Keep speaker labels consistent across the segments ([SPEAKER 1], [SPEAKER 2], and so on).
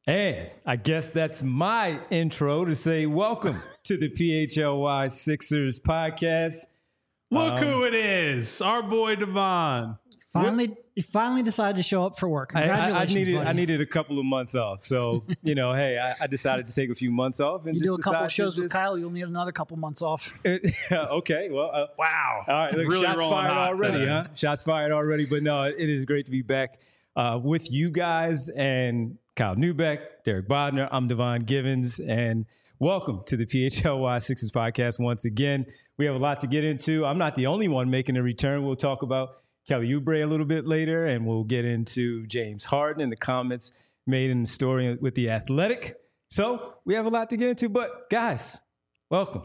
[SPEAKER 1] And I guess that's my intro to say welcome to the PHLY Sixers podcast.
[SPEAKER 2] Look who it is, our boy Devon.
[SPEAKER 3] You finally decided to show up for work.
[SPEAKER 1] I
[SPEAKER 3] Congratulations,
[SPEAKER 1] I needed a couple of months off. So, hey, I decided to take a few months off. And
[SPEAKER 3] you
[SPEAKER 1] just
[SPEAKER 3] do a couple of shows
[SPEAKER 1] just...
[SPEAKER 3] with Kyle, you'll need another couple months off.
[SPEAKER 1] Okay, well.
[SPEAKER 2] Wow.
[SPEAKER 1] All right, look,
[SPEAKER 2] really
[SPEAKER 1] shots fired already,
[SPEAKER 2] today.
[SPEAKER 1] huh? Shots fired already. But no, it is great to be back with you guys and Kyle Neubeck, Derek Bodner. I'm Devon Givens, and welcome to the PHLY Sixers podcast once again. We have a lot to get into. I'm not the only one making a return. We'll talk about Kelly Oubre a little bit later, and we'll get into James Harden and the comments made in the story with The Athletic. So we have a lot to get into, but guys, welcome.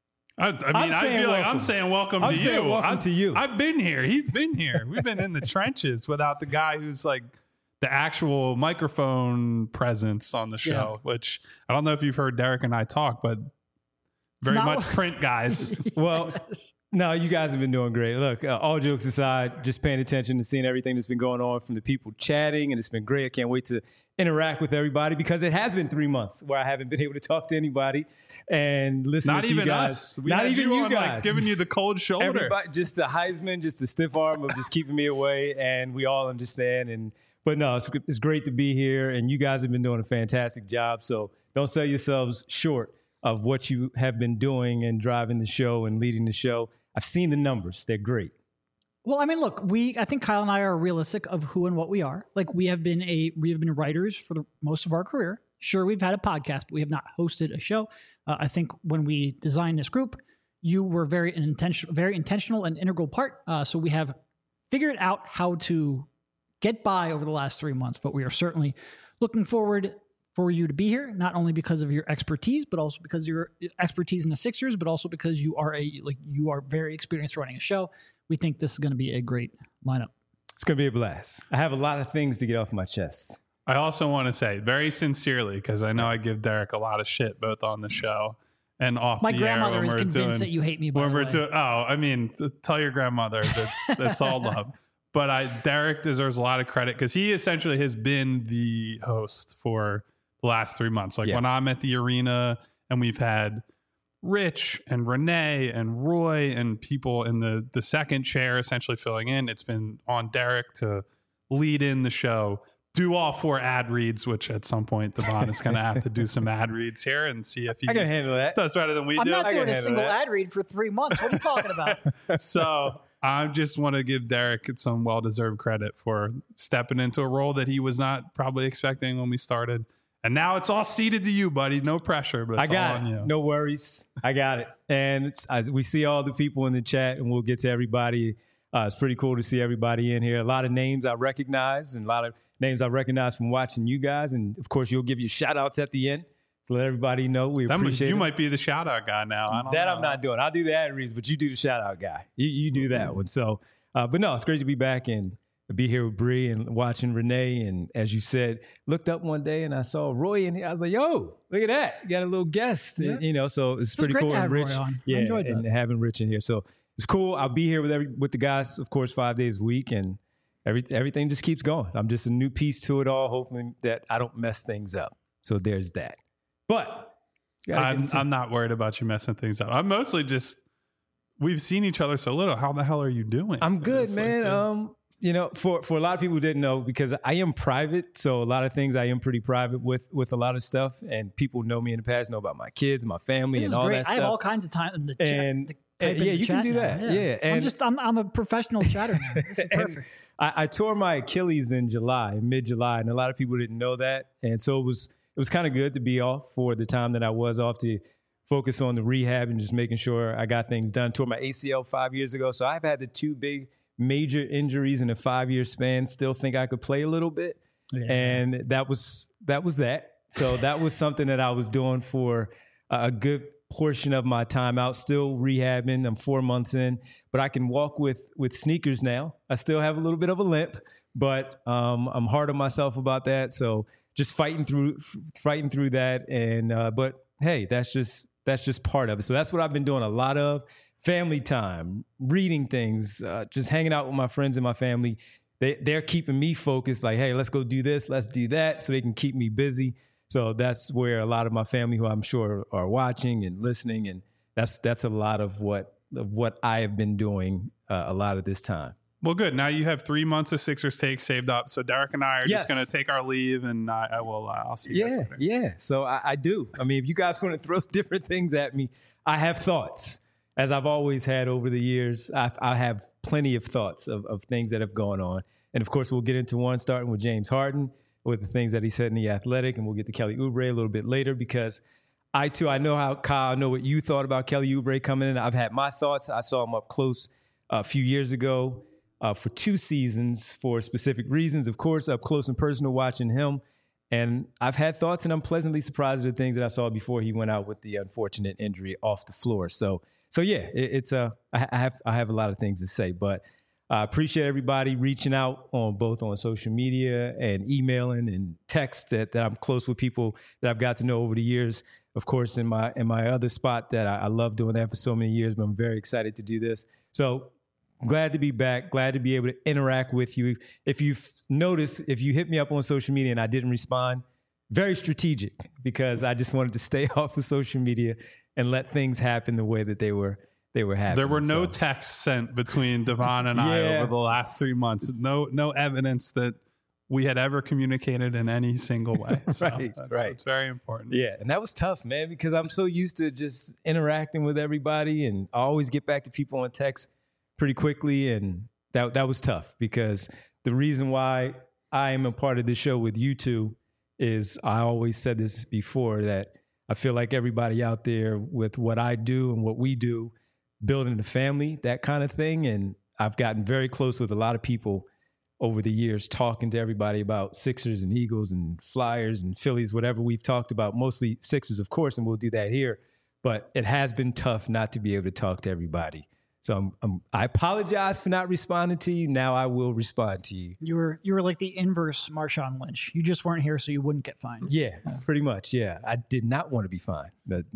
[SPEAKER 2] I feel like I'm saying welcome to you.
[SPEAKER 1] Welcome to you.
[SPEAKER 2] I've been here. He's been here. We've been in the trenches without the guy who's like the actual microphone presence on the show, which I don't know if you've heard Derek and I talk, but very much print guys.
[SPEAKER 1] Well, no, you guys have been doing great. Look, all jokes aside, just paying attention and seeing everything that's been going on from the people chatting, and it's been great. I can't wait to interact with everybody because it has been 3 months where I haven't been able to talk to anybody and listen to you guys.
[SPEAKER 2] Not even you guys. Like, giving you the cold shoulder.
[SPEAKER 1] Everybody, just the Heisman, just the stiff arm of just keeping me away, and we all understand. But no, it's great to be here, and you guys have been doing a fantastic job. So don't sell yourselves short of what you have been doing and driving the show and leading the show. I've seen the numbers. They're great.
[SPEAKER 3] Well, I mean, look, I think Kyle and I are realistic of who and what we are. Like we have been writers for most of our career. Sure, we've had a podcast, but we have not hosted a show. I think when we designed this group, you were very intentional and integral part. So we have figured out how to get by over the last 3 months, but we are certainly looking forward for you to be here, not only because of your expertise, but also because of your expertise in the Sixers, but also because you are very experienced running a show. We think this is going to be a great lineup.
[SPEAKER 1] It's going to be a blast. I have a lot of things to get off my chest.
[SPEAKER 2] I also want to say very sincerely, because I know I give Derek a lot of shit both on the show and off the air.
[SPEAKER 3] My grandmother is convinced that you hate me, by the way.
[SPEAKER 2] Tell your grandmother that's all love. But Derek deserves a lot of credit because he essentially has been the host for the last 3 months. Like when I'm at the arena and we've had Rich and Renee and Roy and people in the second chair essentially filling in, it's been on Derek to lead in the show, do all 4 ad reads, which at some point Devon is going to have to do some ad reads here and see if he
[SPEAKER 1] can handle that.
[SPEAKER 2] Does better than we do.
[SPEAKER 3] I'm not doing a single ad read for 3 months. What are you talking about?
[SPEAKER 2] So I just want to give Derek some well-deserved credit for stepping into a role that he was not probably expecting when we started. And now it's all ceded to you, buddy. No pressure, but it's all on you.
[SPEAKER 1] No worries. I got it. And we see all the people in the chat, and we'll get to everybody. It's pretty cool to see everybody in here. A lot of names I recognize, and a lot of names I recognize from watching you guys. And, of course, you'll give you shout-outs at the end to let everybody know we appreciate it.
[SPEAKER 2] You might be the shout-out guy now. I don't know.
[SPEAKER 1] I'm not doing. I'll do the ad reads, but you do the shout-out guy. You do that one. So, but no, it's great to be back and be here with Bree and watching Renee. And as you said, looked up one day and I saw Roy in here. I was like, yo, look at that. You got a little guest, so it's pretty cool. And Rich,
[SPEAKER 3] I enjoyed
[SPEAKER 1] and having Rich in here. So it's cool. I'll be here with the guys, of course, 5 days a week, and everything just keeps going. I'm just a new piece to it all, hoping that I don't mess things up. So there's that. But
[SPEAKER 2] I'm not worried about you messing things up. I'm mostly just, we've seen each other so little. How the hell are you doing?
[SPEAKER 1] I'm good, man. For a lot of people who didn't know, because I am private, so a lot of things I am pretty private with a lot of stuff, and people know me in the past, know about my kids, my family, and all that stuff.
[SPEAKER 3] I have all kinds of time in the chat.
[SPEAKER 1] And you can do that. Yeah.
[SPEAKER 3] And I'm a professional chatter now. This is perfect.
[SPEAKER 1] I tore my Achilles in mid-July, and a lot of people didn't know that. And so it was kind of good to be off for the time that I was off to focus on the rehab and just making sure I got things done. Tore my ACL 5 years ago, so I've had the 2 big major injuries in a 5-year span. Still think I could play a little bit, and that was that. So that was something that I was doing for a good portion of my time out, still rehabbing. I'm 4 months in, but I can walk with sneakers now. I still have a little bit of a limp, but I'm hard on myself about that. So just fighting through that. And but hey, that's just part of it. So that's what I've been doing a lot of. Family time, reading things, just hanging out with my friends and my family. They're keeping me focused, like, hey, let's go do this, let's do that, so they can keep me busy. So that's where a lot of my family, who I'm sure are watching and listening, and that's a lot of what I have been doing a lot of this time.
[SPEAKER 2] Well, good. Now you have 3 months of Sixers Take saved up. So Derek and I are just going to take our leave, and I'll see you guys later.
[SPEAKER 1] Yeah. So I do. I mean, if you guys want to throw different things at me, I have thoughts, as I've always had over the years. I have plenty of thoughts of things that have gone on. And of course, we'll get into one starting with James Harden, with the things that he said in The Athletic, and we'll get to Kelly Oubre a little bit later, because I know how, Kyle, I know what you thought about Kelly Oubre coming in. I've had my thoughts. I saw him up close a few years ago. For 2 seasons for specific reasons, of course, up close and personal watching him. And I've had thoughts, and I'm pleasantly surprised at the things that I saw before he went out with the unfortunate injury off the floor. So yeah, I have a lot of things to say, but I appreciate everybody reaching out both on social media and emailing and text that I'm close with people that I've got to know over the years. Of course, in my other spot that I love doing that for so many years, but I'm very excited to do this. So glad to be back. Glad to be able to interact with you. If you've noticed, if you hit me up on social media and I didn't respond, very strategic, because I just wanted to stay off of social media and let things happen the way that they were happening.
[SPEAKER 2] There were no texts sent between Devon and I over the last 3 months. No evidence that we had ever communicated in any single way. So
[SPEAKER 1] right.
[SPEAKER 2] It's very important.
[SPEAKER 1] Yeah, and that was tough, man, because I'm so used to just interacting with everybody, and I always get back to people on text pretty quickly, and that was tough, because the reason why I am a part of this show with you two is, I always said this before, that I feel like everybody out there with what I do and what we do, building a family, that kind of thing, and I've gotten very close with a lot of people over the years, talking to everybody about Sixers and Eagles and Flyers and Phillies, whatever we've talked about, mostly Sixers, of course, and we'll do that here, but it has been tough not to be able to talk to everybody. So I apologize for not responding to you. Now I will respond to you.
[SPEAKER 3] You were like the inverse Marshawn Lynch. You just weren't here so you wouldn't get fined.
[SPEAKER 1] Yeah, pretty much. Yeah, I did not want to be fined. That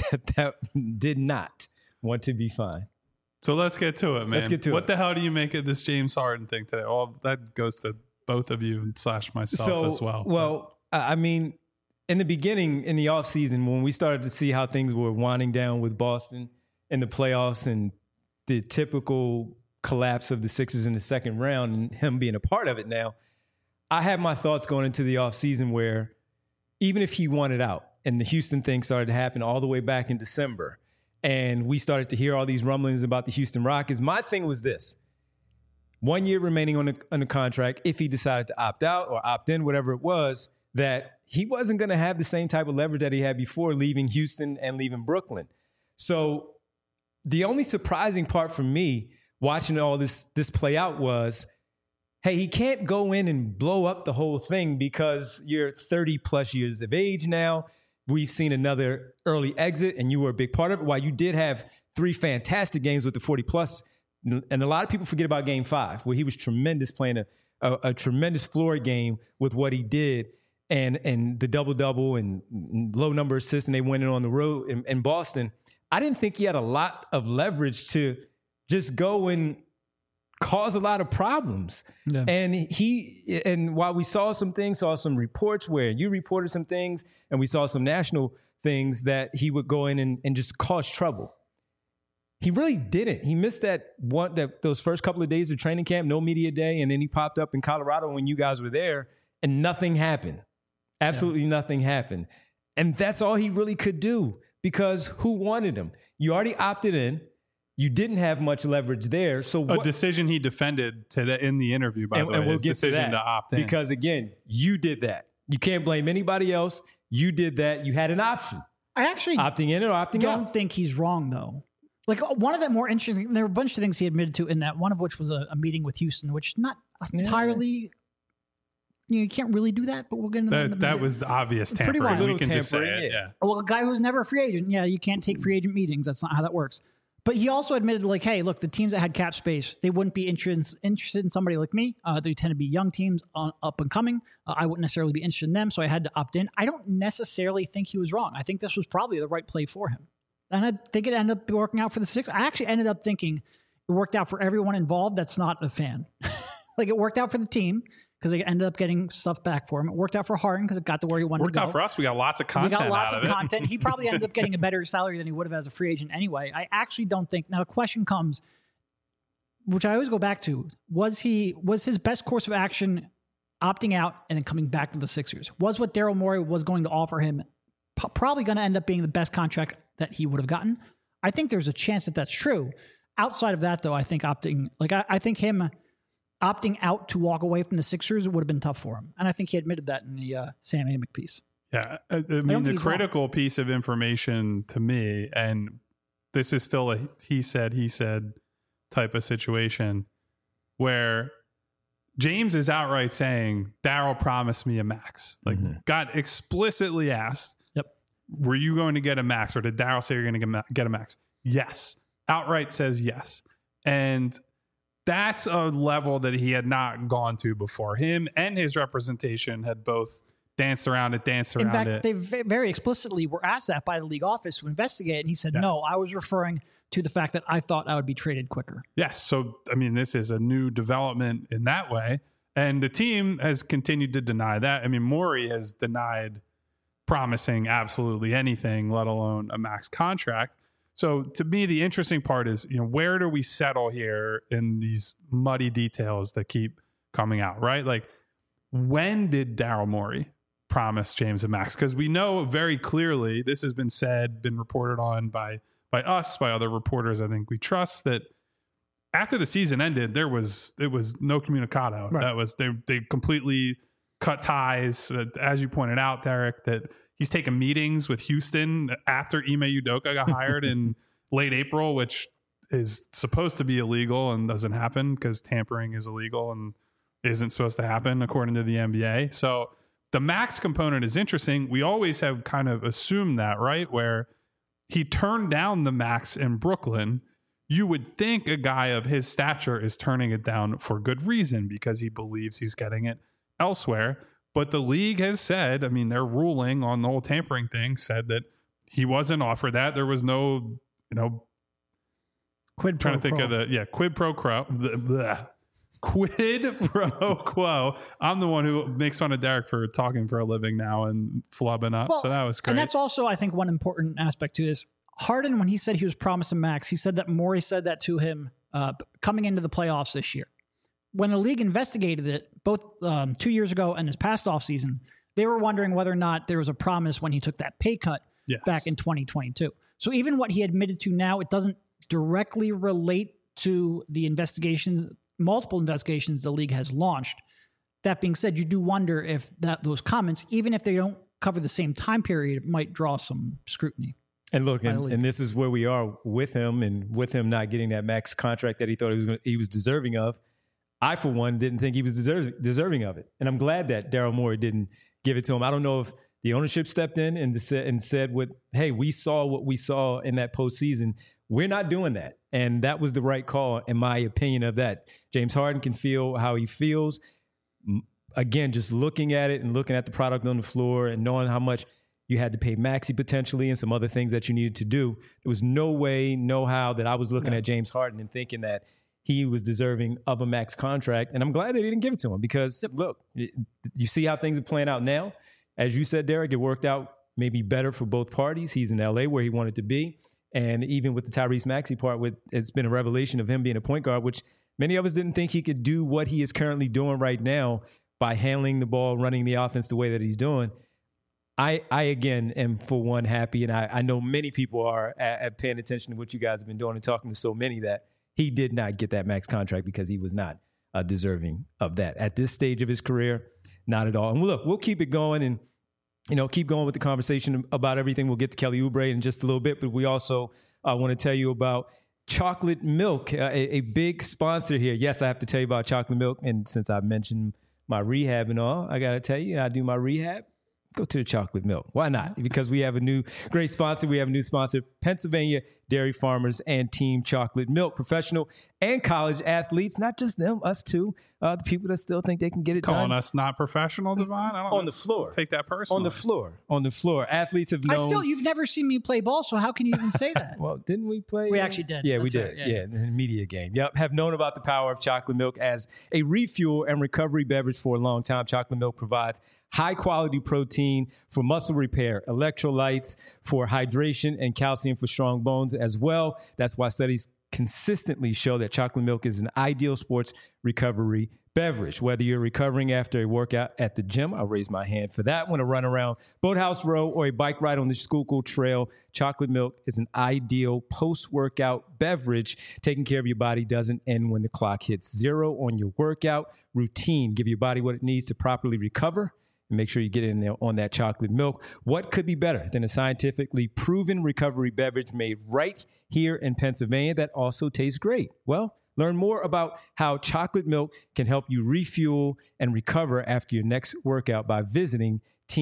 [SPEAKER 1] did not want to be fined.
[SPEAKER 2] So let's get to it, man.
[SPEAKER 1] Let's get to it.
[SPEAKER 2] What the hell do you make of this James Harden thing today? Well, that goes to both of you / myself as well.
[SPEAKER 1] Well, I mean, in the beginning, in the offseason, when we started to see how things were winding down with Boston in the playoffs and the typical collapse of the Sixers in the second round and him being a part of it now, I had my thoughts going into the offseason where even if he wanted out and the Houston thing started to happen all the way back in December, and we started to hear all these rumblings about the Houston Rockets, my thing was this: 1 year remaining on the contract, if he decided to opt out or opt in, whatever it was, that he wasn't going to have the same type of leverage that he had before leaving Houston and leaving Brooklyn. So the only surprising part for me watching all this play out was, hey, he can't go in and blow up the whole thing because you're 30 plus years of age now. We've seen another early exit, and you were a big part of it. While you did have 3 fantastic games with the 40 plus, and a lot of people forget about Game 5, where he was tremendous, playing a tremendous floor game with what he did, and the double-double and low number assists, and they went in on the road in Boston. I didn't think he had a lot of leverage to just go and cause a lot of problems. Yeah. And while we saw some reports where you reported some things, and we saw some national things that he would go in and just cause trouble, he really didn't. He missed those first couple of days of training camp, no media day, and then he popped up in Colorado when you guys were there, and nothing happened. Absolutely nothing happened. And that's all he really could do, because who wanted him? You already opted in. You didn't have much leverage there. So
[SPEAKER 2] a decision he defended today in the interview, by the way, his decision to opt in.
[SPEAKER 1] Because again, you did that. You can't blame anybody else. You did that. You had an option.
[SPEAKER 3] I actually
[SPEAKER 1] opting in or opting out.
[SPEAKER 3] Don't think he's wrong though. Like, one of the more interesting, there were a bunch of things he admitted to in that, one of which was a meeting with Houston, which not entirely, you can't really do that, but we'll get into that.
[SPEAKER 2] That was the obvious tampering.
[SPEAKER 3] Pretty wild.
[SPEAKER 2] We can just say it. Yeah.
[SPEAKER 3] Well, a guy who's never a free agent, you can't take free agent meetings. That's not how that works. But he also admitted, like, hey, look, the teams that had cap space, they wouldn't be interested in somebody like me. They tend to be young teams up and coming. I wouldn't necessarily be interested in them, so I had to opt in. I don't necessarily think he was wrong. I think this was probably the right play for him. And I think it ended up working out for the Sixers. I actually ended up thinking it worked out for everyone involved that's not a fan. Like, it worked out for the team. because they ended up getting stuff back for him. It worked out for Harden because it got to where he wanted to go.
[SPEAKER 2] Worked out for us. We got lots of content.
[SPEAKER 3] We got lots
[SPEAKER 2] of
[SPEAKER 3] content. He probably ended up getting a better salary than he would have as a free agent anyway. I actually don't think. Now the question comes, which I always go back to: was his best course of action opting out and then coming back to the Sixers? Was what Daryl Morey was going to offer him probably going to end up being the best contract that he would have gotten? I think there's a chance that that's true. Outside of that, though, I think I think him opting out to walk away from the Sixers would have been tough for him. And I think he admitted that in the Sam Amick piece.
[SPEAKER 2] Yeah. I mean, the critical piece of information to me, and this is still a he said type of situation, where James is outright saying, Daryl promised me a max. Like, got explicitly asked, were you going to get a max? Or did Daryl say you're going to get a max? Yes. Outright says yes. And that's a level that he had not gone to before. Him and his representation had both danced around it.
[SPEAKER 3] In fact, they very explicitly were asked that by the league office to investigate. And he said, no, I was referring to the fact that I thought I would be traded quicker.
[SPEAKER 2] Yes. So, I mean, this is a new development in that way. And the team has continued to deny that. I mean, Morey has denied promising absolutely anything, let alone a max contract. So to me, the interesting part is, where do we settle here in these muddy details that keep coming out, right? Like, when did Daryl Morey promise James a max? Because we know very clearly, this has been said, been reported on by us, by other reporters I think we trust, that after the season ended, it was no communicado. Right. That was they completely cut ties. As you pointed out, Derek, that he's taken meetings with Houston after Ime Udoka got hired in late April, which is supposed to be illegal and doesn't happen because tampering is illegal and isn't supposed to happen according to the NBA. So the max component is interesting. We always have kind of assumed that, right? Where he turned down the max in Brooklyn. You would think a guy of his stature is turning it down for good reason because he believes he's getting it elsewhere. But the league has said, I mean, their ruling on the whole tampering thing said that he wasn't offered that. There was no,
[SPEAKER 3] quid pro quo.
[SPEAKER 2] Quid pro quo. Quid pro quo. I'm the one who makes fun of Derek for talking for a living now and flubbing up. Well, so that was great.
[SPEAKER 3] And that's also, I think, one important aspect to this. Harden, when he said he was promised a max, he said that Morey said that to him coming into the playoffs this year. When the league investigated it, both 2 years ago and this past offseason, they were wondering whether or not there was a promise when he took that pay cut back in 2022. So even what he admitted to now, it doesn't directly relate to the multiple investigations the league has launched. That being said, you do wonder if those comments, even if they don't cover the same time period, might draw some scrutiny.
[SPEAKER 1] And look, and this is where we are with him, and with him not getting that max contract that he thought he was deserving of. I, for one, didn't think he was deserving of it. And I'm glad that Daryl Morey didn't give it to him. I don't know if the ownership stepped in and said, hey, we saw what we saw in that postseason. We're not doing that. And that was the right call, in my opinion, of that. James Harden can feel how he feels. Again, just looking at it and looking at the product on the floor and knowing how much you had to pay Maxey potentially and some other things that you needed to do. There was no way, no how that I was looking at James Harden and thinking that he was deserving of a max contract. And I'm glad they didn't give it to him because, look, you see how things are playing out now. As you said, Derek, it worked out maybe better for both parties. He's in L.A. where he wanted to be. And even with the Tyrese Maxey part, it's been a revelation of him being a point guard, which many of us didn't think he could do what he is currently doing right now by handling the ball, running the offense the way that he's doing. I again, am for one happy, and I know many people are at paying attention to what you guys have been doing and talking to so many that he did not get that max contract because he was not deserving of that. At this stage of his career, not at all. And look, we'll keep it going and, keep going with the conversation about everything. We'll get to Kelly Oubre in just a little bit, but we also want to tell you about Chocolate Milk, a big sponsor here. Yes, I have to tell you about Chocolate Milk. And since I mentioned my rehab and all, I got to tell you, I do my rehab. Go to the Chocolate Milk. Why not? Because we have a new great sponsor. We have a new sponsor, Pennsylvania dairy farmers, and Team Chocolate Milk. Professional and college athletes, not just them, us too, the people that still think they can get it
[SPEAKER 2] Calling
[SPEAKER 1] done.
[SPEAKER 2] us not professional, Devon? I don't
[SPEAKER 1] On the floor.
[SPEAKER 2] Take that personally.
[SPEAKER 1] On the floor. Athletes have known.
[SPEAKER 3] You've never seen me play ball, so how can you even say that?
[SPEAKER 1] Well, didn't we play?
[SPEAKER 3] We actually did.
[SPEAKER 1] Yeah,
[SPEAKER 3] That's
[SPEAKER 1] we did.
[SPEAKER 3] right.
[SPEAKER 1] Yeah, in the media game. Yep. Have known about the power of chocolate milk as a refuel and recovery beverage for a long time. Chocolate milk provides high quality protein for muscle repair, electrolytes for hydration, and calcium for strong bones as well. That's why studies consistently show that chocolate milk is an ideal sports recovery beverage. Whether you're recovering after a workout at the gym, I'll raise my hand for that one, a run around Boathouse Row, or a bike ride on the Schuylkill Trail, chocolate milk is an ideal post-workout beverage. Taking care of your body doesn't end when the clock hits zero on your workout routine. Give your body what it needs to properly recover. And make sure you get in there on that chocolate milk. What could be better than a scientifically proven recovery beverage made right here in Pennsylvania that also tastes great? Well, learn more about how chocolate milk can help you refuel and recover after your next workout by visiting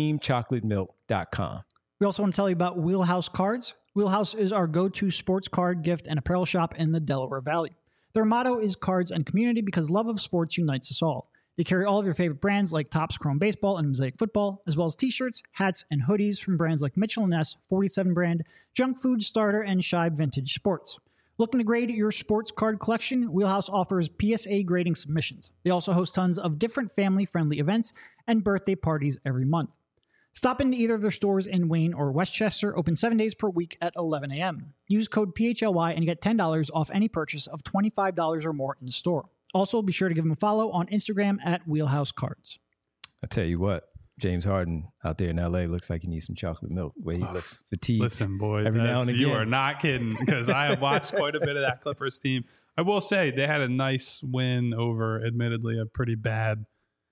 [SPEAKER 1] teamchocolatemilk.com.
[SPEAKER 3] We also want to tell you about Wheelhouse Cards. Wheelhouse is our go-to sports card, gift, and apparel shop in the Delaware Valley. Their motto is cards and community because love of sports unites us all. They carry all of your favorite brands like Topps Chrome Baseball and Mosaic Football, as well as t-shirts, hats, and hoodies from brands like Mitchell & Ness, 47 Brand, Junk Food Starter, and Shibe Vintage Sports. Looking to grade your sports card collection? Wheelhouse offers PSA grading submissions. They also host tons of different family-friendly events and birthday parties every month. Stop into either of their stores in Wayne or Westchester, open 7 days per week at 11 a.m. Use code PHLY and you get $10 off any purchase of $25 or more in the store. Also, be sure to give them a follow on Instagram at Wheelhouse Cards.
[SPEAKER 1] I tell you what, James Harden out there in L.A. looks like he needs some chocolate milk. The way he looks fatigued.
[SPEAKER 2] Listen, boy,
[SPEAKER 1] every now and again.
[SPEAKER 2] You are not kidding, because I have watched quite a bit of that Clippers team. I will say they had a nice win over, admittedly, a pretty bad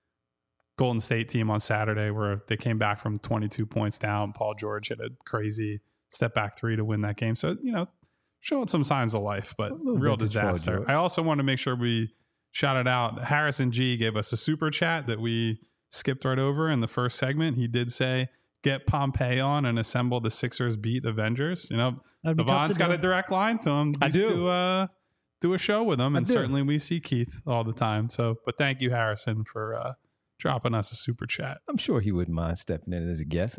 [SPEAKER 2] Golden State team on Saturday, where they came back from 22 points down. Paul George hit a crazy step back three to win that game. So, showing some signs of life, but real disaster. I also want to make sure we shout it out. Harrison G gave us a super chat that we skipped right over in the first segment. He did say, get Pompey on and assemble the Sixers beat Avengers. Devon's got a direct line to him.
[SPEAKER 1] I do.
[SPEAKER 2] To do a show with him, and certainly we see Keith all the time. So, but thank you, Harrison, for dropping us a super chat.
[SPEAKER 1] I'm sure he wouldn't mind stepping in as a guest.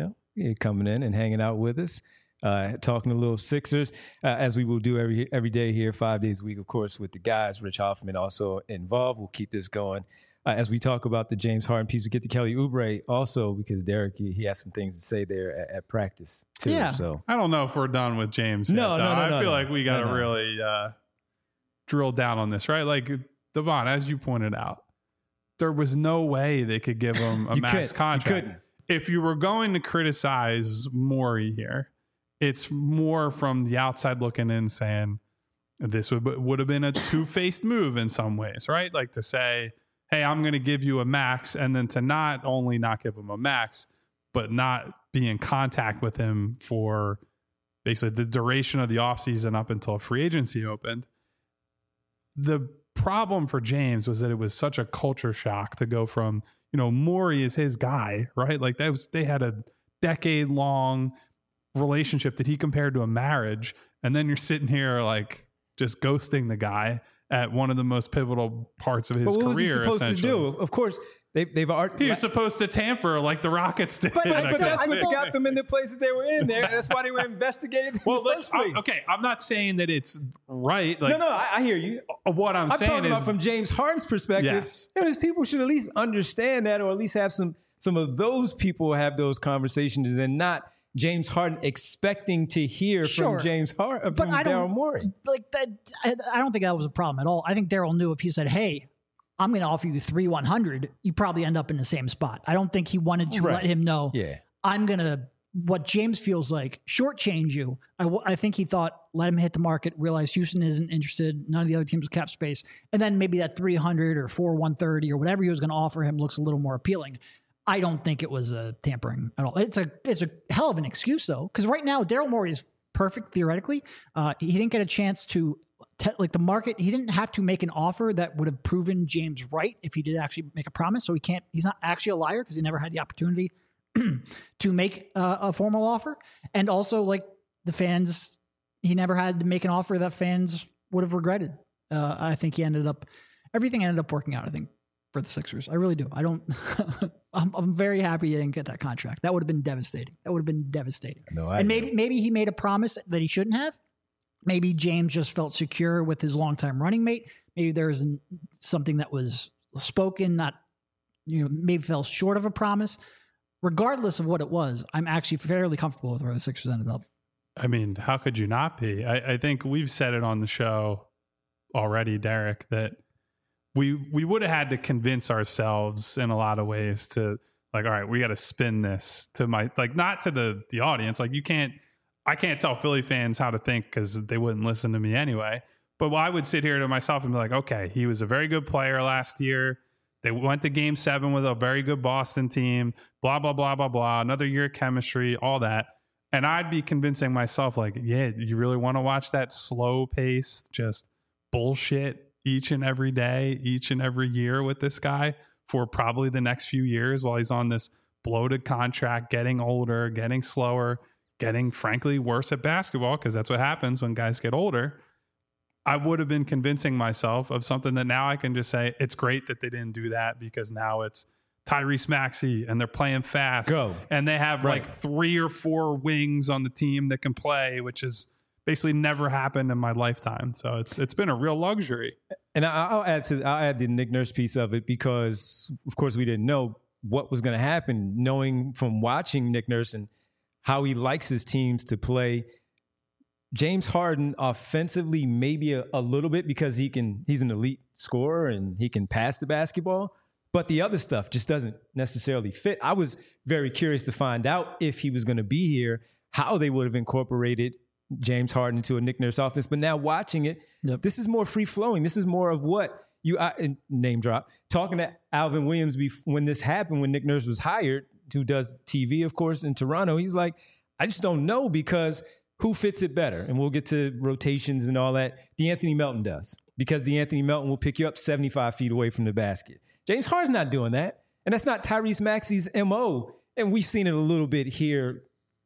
[SPEAKER 1] Coming in and hanging out with us. Talking a little Sixers, as we will do every day here, 5 days a week, of course, with the guys. Rich Hoffman also involved. We'll keep this going. As we talk about the James Harden piece, we get to Kelly Oubre also, because Derek, he has some things to say there at practice, too.
[SPEAKER 3] Yeah.
[SPEAKER 1] So
[SPEAKER 2] I don't know if we're done with James yet, I feel like we got to really drill down on this, right? Like, Devon, as you pointed out, there was no way they could give him a max contract. If you were going to criticize Morey here, it's more from the outside looking in, saying this would have been a two-faced move in some ways, right? Like to say, hey, I'm going to give you a max, and then to not only not give him a max, but not be in contact with him for basically the duration of the offseason up until free agency opened. The problem for James was that it was such a culture shock to go from, Morey is his guy, right? Like they had a decade-long relationship that he compared to a marriage, and then you're sitting here like just ghosting the guy at one of the most pivotal parts of his career.
[SPEAKER 1] What was he supposed to do? Of course, they've already.
[SPEAKER 2] He was supposed to tamper like the Rockets did.
[SPEAKER 1] But that's what got them in the places they were in there. That's why they were investigated in the first place.
[SPEAKER 2] Okay, I'm not saying that it's right. Like,
[SPEAKER 1] no, I hear you.
[SPEAKER 2] What I'm saying is,
[SPEAKER 1] talking about from James Harden's perspective.
[SPEAKER 2] Yes.
[SPEAKER 1] These people should at least understand that, or at least have some of those people have those conversations, and not James Harden expecting to hear from James Harden, from Daryl Morey.
[SPEAKER 3] Like that, I don't think that was a problem at all. I think Daryl knew if he said, hey, I'm going to offer you 3,100, you probably end up in the same spot. I don't think he wanted to let him know, I'm going to, what James feels like, shortchange you. I think he thought, let him hit the market, realize Houston isn't interested, none of the other teams with cap space, and then maybe that 300 or 4,130 or whatever he was going to offer him looks a little more appealing. I don't think it was a tampering at all. It's a hell of an excuse, though, because right now Daryl Morey is perfect theoretically. He didn't get a chance to the market. He didn't have to make an offer that would have proven James right if he did actually make a promise. So he's not actually a liar because he never had the opportunity to make a formal offer. And also, like, the fans, he never had to make an offer that fans would have regretted. I think everything ended up working out, I think, for the Sixers. I really do. I'm very happy he didn't get that contract. That would have been devastating.
[SPEAKER 1] No,
[SPEAKER 3] and maybe he made a promise that he shouldn't have. Maybe James just felt secure with his longtime running mate. Maybe there was something that was spoken, maybe fell short of a promise. Regardless of what it was, I'm actually fairly comfortable with where the Sixers ended up.
[SPEAKER 2] I mean, how could you not be? I think we've said it on the show already, Derek, that we would have had to convince ourselves in a lot of ways to like, all right, we got to spin this to not to the audience. Like I can't tell Philly fans how to think because they wouldn't listen to me anyway. But I would sit here to myself and be like, okay, he was a very good player last year. They went to Game 7 with a very good Boston team, blah, blah, blah, blah, blah. Another year of chemistry, all that. And I'd be convincing myself like, yeah, you really want to watch that slow paced, just bullshit each and every day, each and every year with this guy for probably the next few years while he's on this bloated contract, getting older, getting slower, getting frankly worse at basketball, because that's what happens when guys get older. I would have been convincing myself of something that now I can just say, it's great that they didn't do that because now it's Tyrese Maxey and they're playing fast. And they have like 3 or 4 wings on the team that can play, which has basically never happened in my lifetime. So it's been a real luxury.
[SPEAKER 1] And I'll add the Nick Nurse piece of it because, of course, we didn't know what was going to happen, knowing from watching Nick Nurse and how he likes his teams to play. James Harden offensively, maybe a little bit because he's an elite scorer and he can pass the basketball, but the other stuff just doesn't necessarily fit. I was very curious to find out if he was going to be here, how they would have incorporated James Harden into a Nick Nurse offense. But now watching it, This is more free flowing. This is more of what name drop, talking to Alvin Williams when this happened, when Nick Nurse was hired, who does TV, of course, in Toronto. He's like, I just don't know because who fits it better? And we'll get to rotations and all that. DeAnthony Melton does, because DeAnthony Melton will pick you up 75 feet away from the basket. James Harden's not doing that. And that's not Tyrese Maxey's MO. And we've seen it a little bit here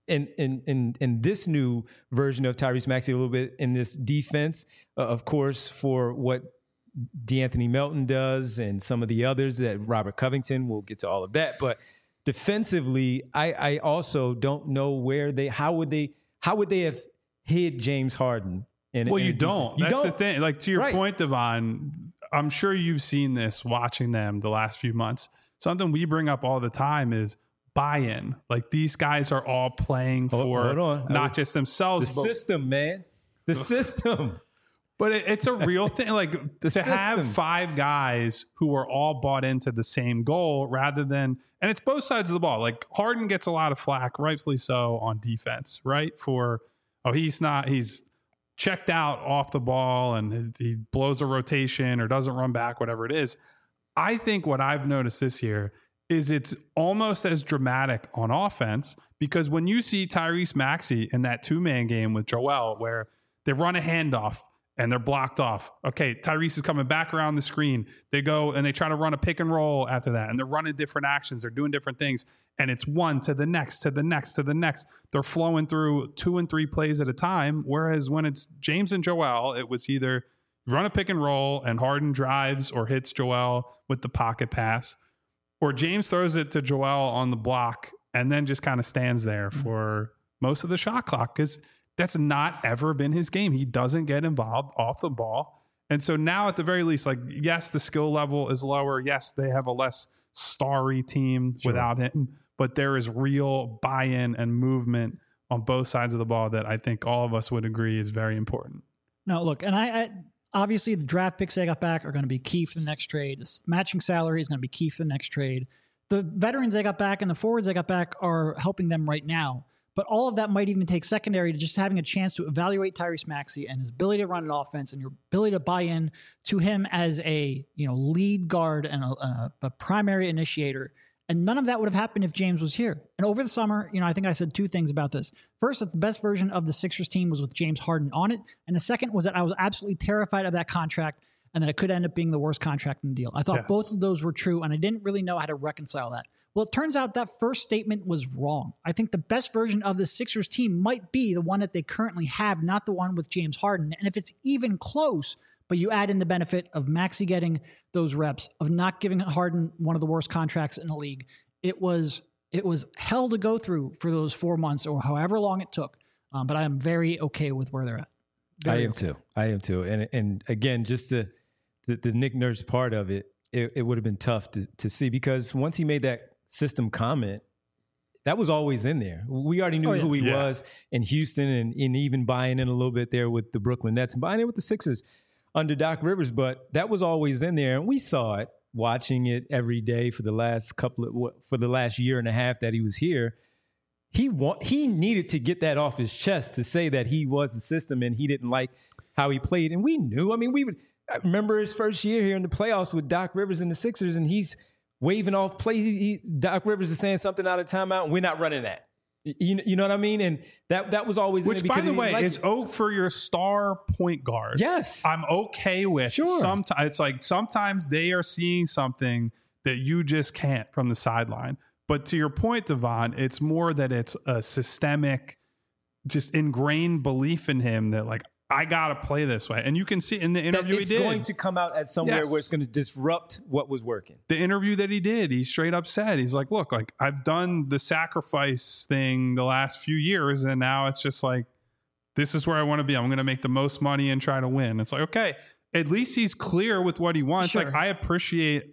[SPEAKER 1] in this new version of Tyrese Maxey, a little bit in this defense, of course, for what DeAnthony Melton does and some of the others that Robert Covington, we'll get to all of that. But defensively, I also don't know how would they have hid James Harden?
[SPEAKER 2] You don't. That's the thing. Like, to your point, Devon, I'm sure you've seen this watching them the last few months. Something we bring up all the time is buy-in. Like, these guys are all playing for not just themselves.
[SPEAKER 1] The system, man. The system.
[SPEAKER 2] But it's a real thing. Like, have 5 guys who are all bought into the same goal rather than, and it's both sides of the ball. Like, Harden gets a lot of flack, rightfully so, on defense, right? He's checked out off the ball and he blows a rotation or doesn't run back, whatever it is. I think what I've noticed this year is it's almost as dramatic on offense, because when you see Tyrese Maxey in that 2-man game with Joel, where they run a handoff and they're blocked off. Okay, Tyrese is coming back around the screen. They go and they try to run a pick and roll after that, and they're running different actions. They're doing different things, and it's one to the next, to the next, to the next. They're flowing through 2 and 3 plays at a time, whereas when it's James and Joel, it was either run a pick and roll and Harden drives or hits Joel with the pocket pass, or James throws it to Joel on the block and then just kind of stands there for most of the shot clock, because that's not ever been his game. He doesn't get involved off the ball. And so now at the very least, like, yes, the skill level is lower. Yes, they have a less starry team without him, but there is real buy-in and movement on both sides of the ball that I think all of us would agree is very important.
[SPEAKER 3] No, look, and I obviously the draft picks they got back are going to be key for the next trade. The matching salary is going to be key for the next trade. The veterans they got back and the forwards they got back are helping them right now. But all of that might even take secondary to just having a chance to evaluate Tyrese Maxey and his ability to run an offense and your ability to buy in to him as a lead guard and a primary initiator. And none of that would have happened if James was here. And over the summer, I think I said 2 things about this. First, that the best version of the Sixers team was with James Harden on it. And the second was that I was absolutely terrified of that contract and that it could end up being the worst contract in the deal. I thought both of those were true, and I didn't really know how to reconcile that. Well, it turns out that first statement was wrong. I think the best version of the Sixers team might be the one that they currently have, not the one with James Harden. And if it's even close, but you add in the benefit of Maxey getting those reps, of not giving Harden one of the worst contracts in the league, it was hell to go through for those 4 months or however long it took. But I am very okay with where they're at.
[SPEAKER 1] I am too. And again, just the Nick Nurse part of it, it would have been tough to see, because once he made that system comment, that was always in there. We already knew who he was in Houston, and even buying in a little bit there with the Brooklyn Nets and buying in with the Sixers under Doc Rivers. But that was always in there, and we saw it watching it every day for the last year and a half that he was here. He needed to get that off his chest to say that he was the system and he didn't like how he played. And we knew. I mean, I remember his first year here in the playoffs with Doc Rivers and the Sixers, and he's waving off plays. Doc Rivers is saying something out of timeout, and we're not running that. You know what I mean? And that was always
[SPEAKER 2] which, by the way, is for your star point guard.
[SPEAKER 1] Yes,
[SPEAKER 2] I'm okay with.
[SPEAKER 1] Sure,
[SPEAKER 2] sometimes it's like sometimes they are seeing something that you just can't from the sideline. But to your point, Devon, it's more that it's a systemic, just ingrained belief in him that, like, I got to play this way. And you can see in the interview he did.
[SPEAKER 1] It's going to come out at somewhere where it's going to disrupt what was working.
[SPEAKER 2] The interview that he did, he straight up said, he's like, look, like, I've done the sacrifice thing the last few years, and now it's just like, this is where I want to be. I'm going to make the most money and try to win. It's like, okay, at least he's clear with what he wants.
[SPEAKER 3] Sure.
[SPEAKER 2] Like, I appreciate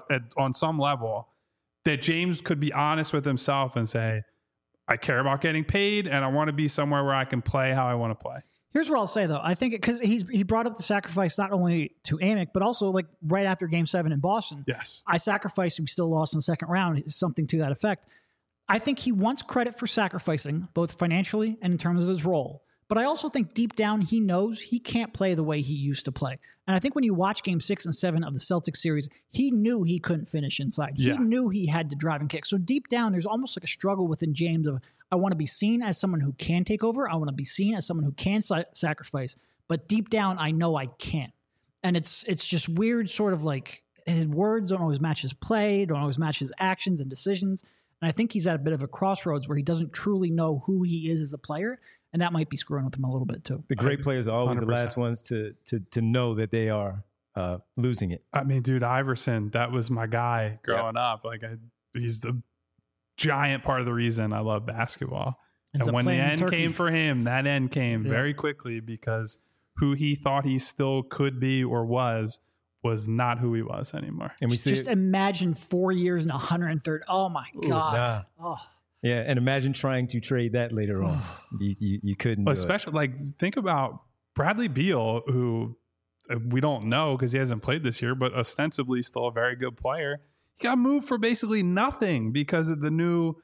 [SPEAKER 2] on some level that James could be honest with himself and say, I care about getting paid and I want to be somewhere where I can play how I want to play.
[SPEAKER 3] Here's what I'll say, though. I think because he brought up the sacrifice not only to Amick, but also like right after Game 7 in Boston.
[SPEAKER 2] Yes.
[SPEAKER 3] I sacrificed and we still lost in the second round, something to that effect. I think he wants credit for sacrificing, both financially and in terms of his role. But I also think deep down he knows he can't play the way he used to play. And I think when you watch Game 6 and 7 of the Celtics series, he knew he couldn't finish inside. Yeah. He knew he had to drive and kick. So deep down, there's almost like a struggle within James of, I want to be seen as someone who can take over. I want to be seen as someone who can sacrifice. But deep down, I know I can't. And it's just weird, sort of like his words don't always match his play, don't always match his actions and decisions. And I think he's at a bit of a crossroads where he doesn't truly know who he is as a player. And that might be screwing with him a little bit too.
[SPEAKER 1] The great players are always 100%. The last ones to know that they are losing it.
[SPEAKER 2] I mean, dude, Iverson, that was my guy growing up. Like, he's the giant part of the reason I love basketball. And when the end came for him, that end came very quickly, because who he thought he still could be or was not who he was anymore.
[SPEAKER 3] And we just imagine 4 years and 130. Oh my God.
[SPEAKER 1] Oh. Yeah, and imagine trying to trade that later on. You couldn't.
[SPEAKER 2] Especially, like, think about Bradley Beal, who we don't know because he hasn't played this year, but ostensibly still a very good player. He got moved for basically nothing because of the new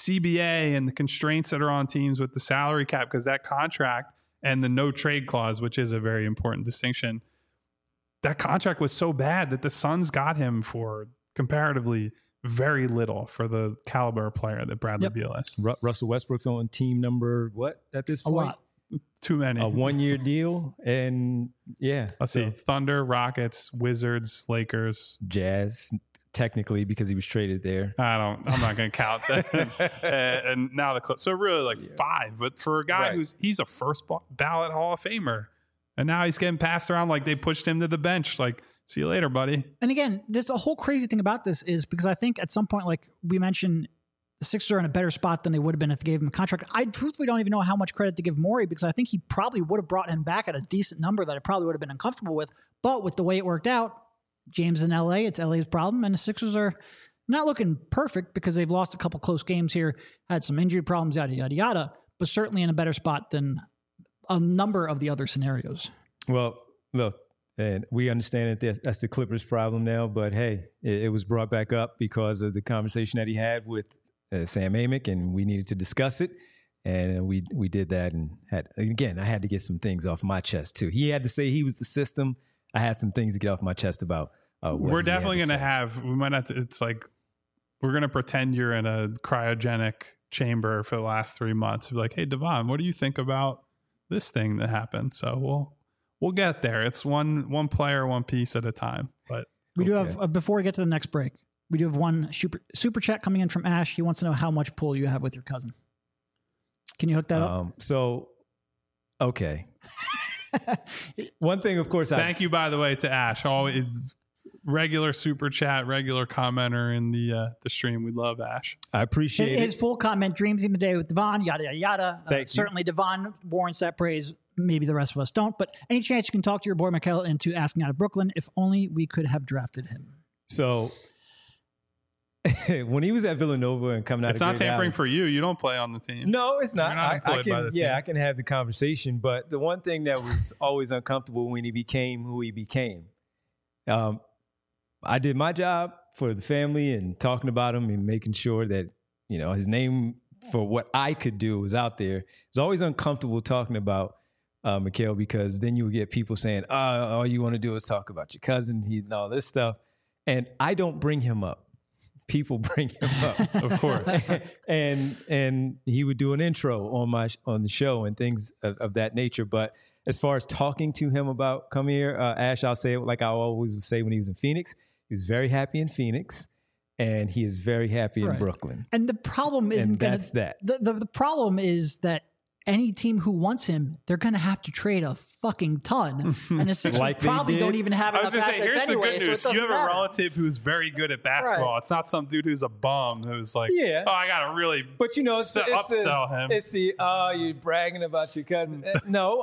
[SPEAKER 2] CBA and the constraints that are on teams with the salary cap, because that contract and the no trade clause, which is a very important distinction, that contract was so bad that the Suns got him for comparatively very little for the caliber player that Bradley Beal is.
[SPEAKER 1] Russell Westbrook's on team number what at this point?
[SPEAKER 3] A lot.
[SPEAKER 2] Too many.
[SPEAKER 1] A 1-year deal. And
[SPEAKER 2] let's see. Thunder, Rockets, Wizards, Lakers,
[SPEAKER 1] Jazz, technically, because he was traded there.
[SPEAKER 2] I'm not going to count that. And now the Clips. So really 5. But for a guy he's a first ballot Hall of Famer. And now he's getting passed around like they pushed him to the bench. Like, see you later, buddy.
[SPEAKER 3] And again, there's a whole crazy thing about this is because I think at some point, like we mentioned, the Sixers are in a better spot than they would have been if they gave him a contract. I truthfully don't even know how much credit to give Morey, because I think he probably would have brought him back at a decent number that I probably would have been uncomfortable with. But with the way it worked out, James in LA, it's LA's problem. And the Sixers are not looking perfect because they've lost a couple close games here, had some injury problems, yada, yada, yada, but certainly in a better spot than a number of the other scenarios.
[SPEAKER 1] Well, look, and we understand that that's the Clippers' problem now, but hey, it was brought back up because of the conversation that he had with Sam Amick, and we needed to discuss it, and we did that, and I had to get some things off my chest too. He had to say he was the system. I had some things to get off my chest about.
[SPEAKER 2] We're definitely going to have. We might have to. It's like we're going to pretend you're in a cryogenic chamber for the last 3 months. Be like, hey, Devon, what do you think about this thing that happened? So we'll get there. It's one player, one piece at a time. But
[SPEAKER 3] we do have before we get to the next break. We do have one super chat coming in from Ash. He wants to know how much pull you have with your cousin. Can you hook that up?
[SPEAKER 1] Okay. One thing, of course,
[SPEAKER 2] thank you, by the way, to Ash. Always regular super chat, regular commenter in the stream. We love Ash.
[SPEAKER 1] I appreciate
[SPEAKER 3] his full comment. Dreams even today with Devon. Yada yada yada. Certainly, Devon warrants that praise. Maybe the rest of us don't. But any chance you can talk to your boy Mikel into asking out of Brooklyn? If only we could have drafted him.
[SPEAKER 1] So when he was at Villanova and coming out,
[SPEAKER 2] it's not tampering for you. You don't play on the team.
[SPEAKER 1] No, it's not.
[SPEAKER 2] You're not employed by the team.
[SPEAKER 1] I can have the conversation. But the one thing that was always uncomfortable when he became who he became, I did my job for the family and talking about him and making sure that, you know, his name for what I could do was out there. It was always uncomfortable talking about Mikel, because then you would get people saying, all you want to do is talk about your cousin, and all this stuff. And I don't bring him up. People bring him up,
[SPEAKER 2] of course.
[SPEAKER 1] and he would do an intro on the show and things of that nature. But as far as talking to him about come here, Ash, I'll say it like I always would say when he was in Phoenix. He was very happy in Phoenix, and he is very happy in Brooklyn.
[SPEAKER 3] And the problem isn't
[SPEAKER 1] that.
[SPEAKER 3] The problem is that any team who wants him, they're going to have to trade a fucking ton. And the Sixers probably don't even have enough assets anyway.
[SPEAKER 2] Here's the good news.
[SPEAKER 3] So
[SPEAKER 2] you have
[SPEAKER 3] matter.
[SPEAKER 2] a relative who's very good at basketball. Right. It's not some dude who's a bum who's like, I got to really upsell him.
[SPEAKER 1] It's you're bragging about your cousin. No,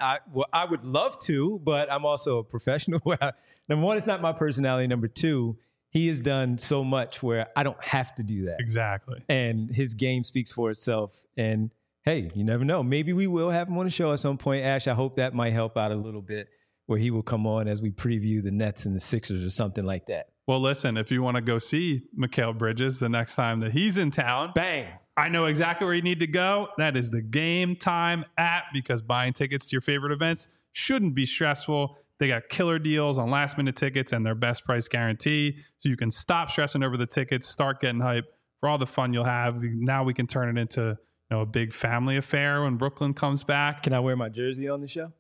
[SPEAKER 1] I would love to, but I'm also a professional. Number one, it's not my personality. Number two, he has done so much where I don't have to do that.
[SPEAKER 2] Exactly.
[SPEAKER 1] And his game speaks for itself. And hey, you never know. Maybe we will have him on the show at some point. Ash, I hope that might help out a little bit, where he will come on as we preview the Nets and the Sixers or something like that.
[SPEAKER 2] Well, listen, if you want to go see Mikal Bridges the next time that he's in town,
[SPEAKER 1] bang,
[SPEAKER 2] I know exactly where you need to go. That is the Game Time app, because buying tickets to your favorite events shouldn't be stressful. They got killer deals on last-minute tickets and their best price guarantee, so you can stop stressing over the tickets, start getting hype for all the fun you'll have. Now we can turn it into a big family affair when Brooklyn comes back.
[SPEAKER 1] Can I wear my jersey on the show?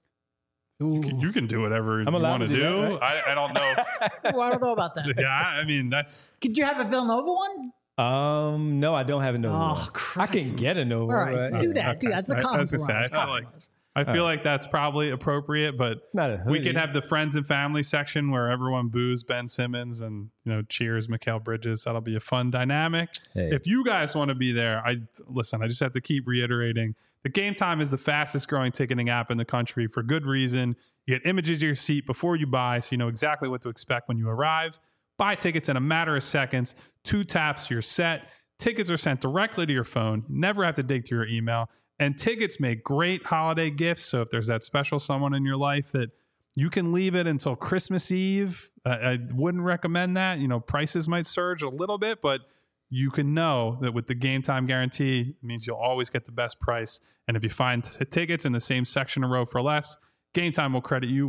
[SPEAKER 2] You can do whatever you want to do. That, right? I don't know.
[SPEAKER 3] Well, I don't know about that.
[SPEAKER 2] Yeah, I mean, that's...
[SPEAKER 3] Could you have a Villanova one?
[SPEAKER 1] No, I don't have a Nova.
[SPEAKER 3] Oh, Christ.
[SPEAKER 1] I can get a Nova.
[SPEAKER 3] All right, do that. Okay. That's a compromise.
[SPEAKER 2] I feel like that's probably appropriate, but
[SPEAKER 1] it's not a hoodie.
[SPEAKER 2] We could have the friends and family section where everyone boos Ben Simmons and cheers Mikal Bridges. That'll be a fun dynamic. Hey. If you guys want to be there, I just have to keep reiterating, the Game Time is the fastest growing ticketing app in the country for good reason. You get images of your seat before you buy, so you know exactly what to expect when you arrive. Buy tickets in a matter of seconds. 2 taps, you're set. Tickets are sent directly to your phone. You never have to dig through your email. And tickets make great holiday gifts. So if there's that special someone in your life that you can leave it until Christmas Eve, I wouldn't recommend that. Prices might surge a little bit, but you can know that with the Game Time guarantee, it means you'll always get the best price. And if you find tickets in the same section or row for less, Game Time will credit you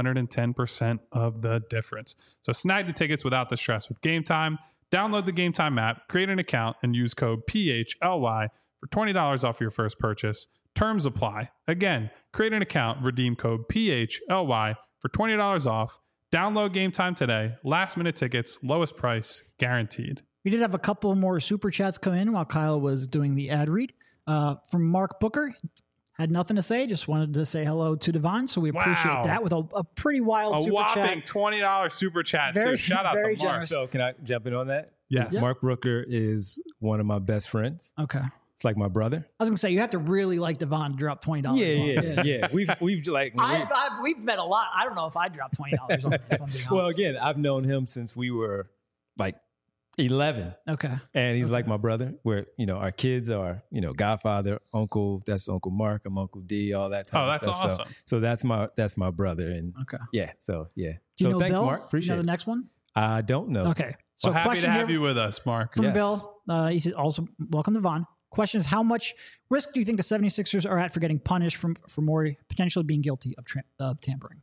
[SPEAKER 2] 110% of the difference. So snag the tickets without the stress with Game Time. Download the Game Time app, create an account, and use code PHLY for $20 off your first purchase. Terms apply. Again, create an account, redeem code PHLY for $20 off. Download Game Time today. Last minute tickets, lowest price, guaranteed.
[SPEAKER 3] We did have a couple more super chats come in while Kyle was doing the ad read. From Mark Booker. Had nothing to say, just wanted to say hello to Devon, so we appreciate that with a pretty wild super chat.
[SPEAKER 2] A whopping $20 super chat, too. Shout out to Mark.
[SPEAKER 3] Generous.
[SPEAKER 1] So can I jump in on that?
[SPEAKER 2] Yes.
[SPEAKER 1] Yeah. Mark Brooker is one of my best friends.
[SPEAKER 3] Okay.
[SPEAKER 1] It's like my brother.
[SPEAKER 3] I was gonna say you have to really like Devon to drop $20.
[SPEAKER 1] Yeah. We've
[SPEAKER 3] met a lot. I don't know if I dropped $20 on him.
[SPEAKER 1] Well, again, I've known him since we were like 11.
[SPEAKER 3] Okay.
[SPEAKER 1] And he's like my brother, where, our kids are, godfather, uncle, that's Uncle Mark, I'm Uncle D, all that type of stuff.
[SPEAKER 2] Oh, that's awesome.
[SPEAKER 1] So that's my brother. And yeah. So yeah.
[SPEAKER 3] Do you know
[SPEAKER 1] thanks,
[SPEAKER 3] Bill?
[SPEAKER 1] Mark. Appreciate it.
[SPEAKER 3] You know the next one?
[SPEAKER 1] I don't know.
[SPEAKER 3] Okay.
[SPEAKER 2] So happy to have you with us, Mark.
[SPEAKER 3] From Bill, he says also, welcome to Devon. Question is, how much risk do you think the 76ers are at for getting punished for Morey potentially being guilty of tampering?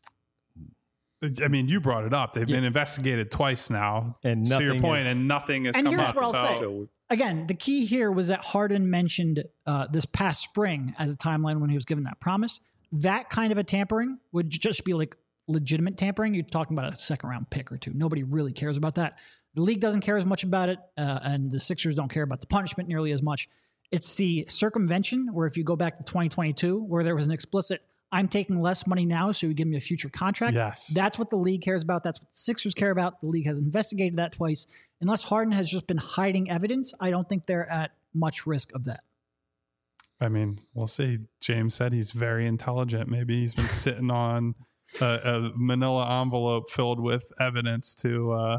[SPEAKER 2] I mean, you brought it up. They've been investigated twice now,
[SPEAKER 1] and
[SPEAKER 2] to your point, and nothing has come up.
[SPEAKER 3] And here's what I'll say. Again, the key here was that Harden mentioned this past spring as a timeline when he was given that promise. That kind of a tampering would just be like legitimate tampering. You're talking about a second round pick or two. Nobody really cares about that. the league doesn't care as much about it, and the Sixers don't care about the punishment nearly as much. It's the circumvention where if you go back to 2022, where there was an explicit, I'm taking less money now, so you give me a future contract.
[SPEAKER 2] Yes.
[SPEAKER 3] That's what the league cares about. That's what the Sixers care about. The league has investigated that twice. Unless Harden has just been hiding evidence, I don't think they're at much risk of that.
[SPEAKER 2] I mean, we'll see. James said he's very intelligent. Maybe he's been sitting on a manila envelope filled with evidence to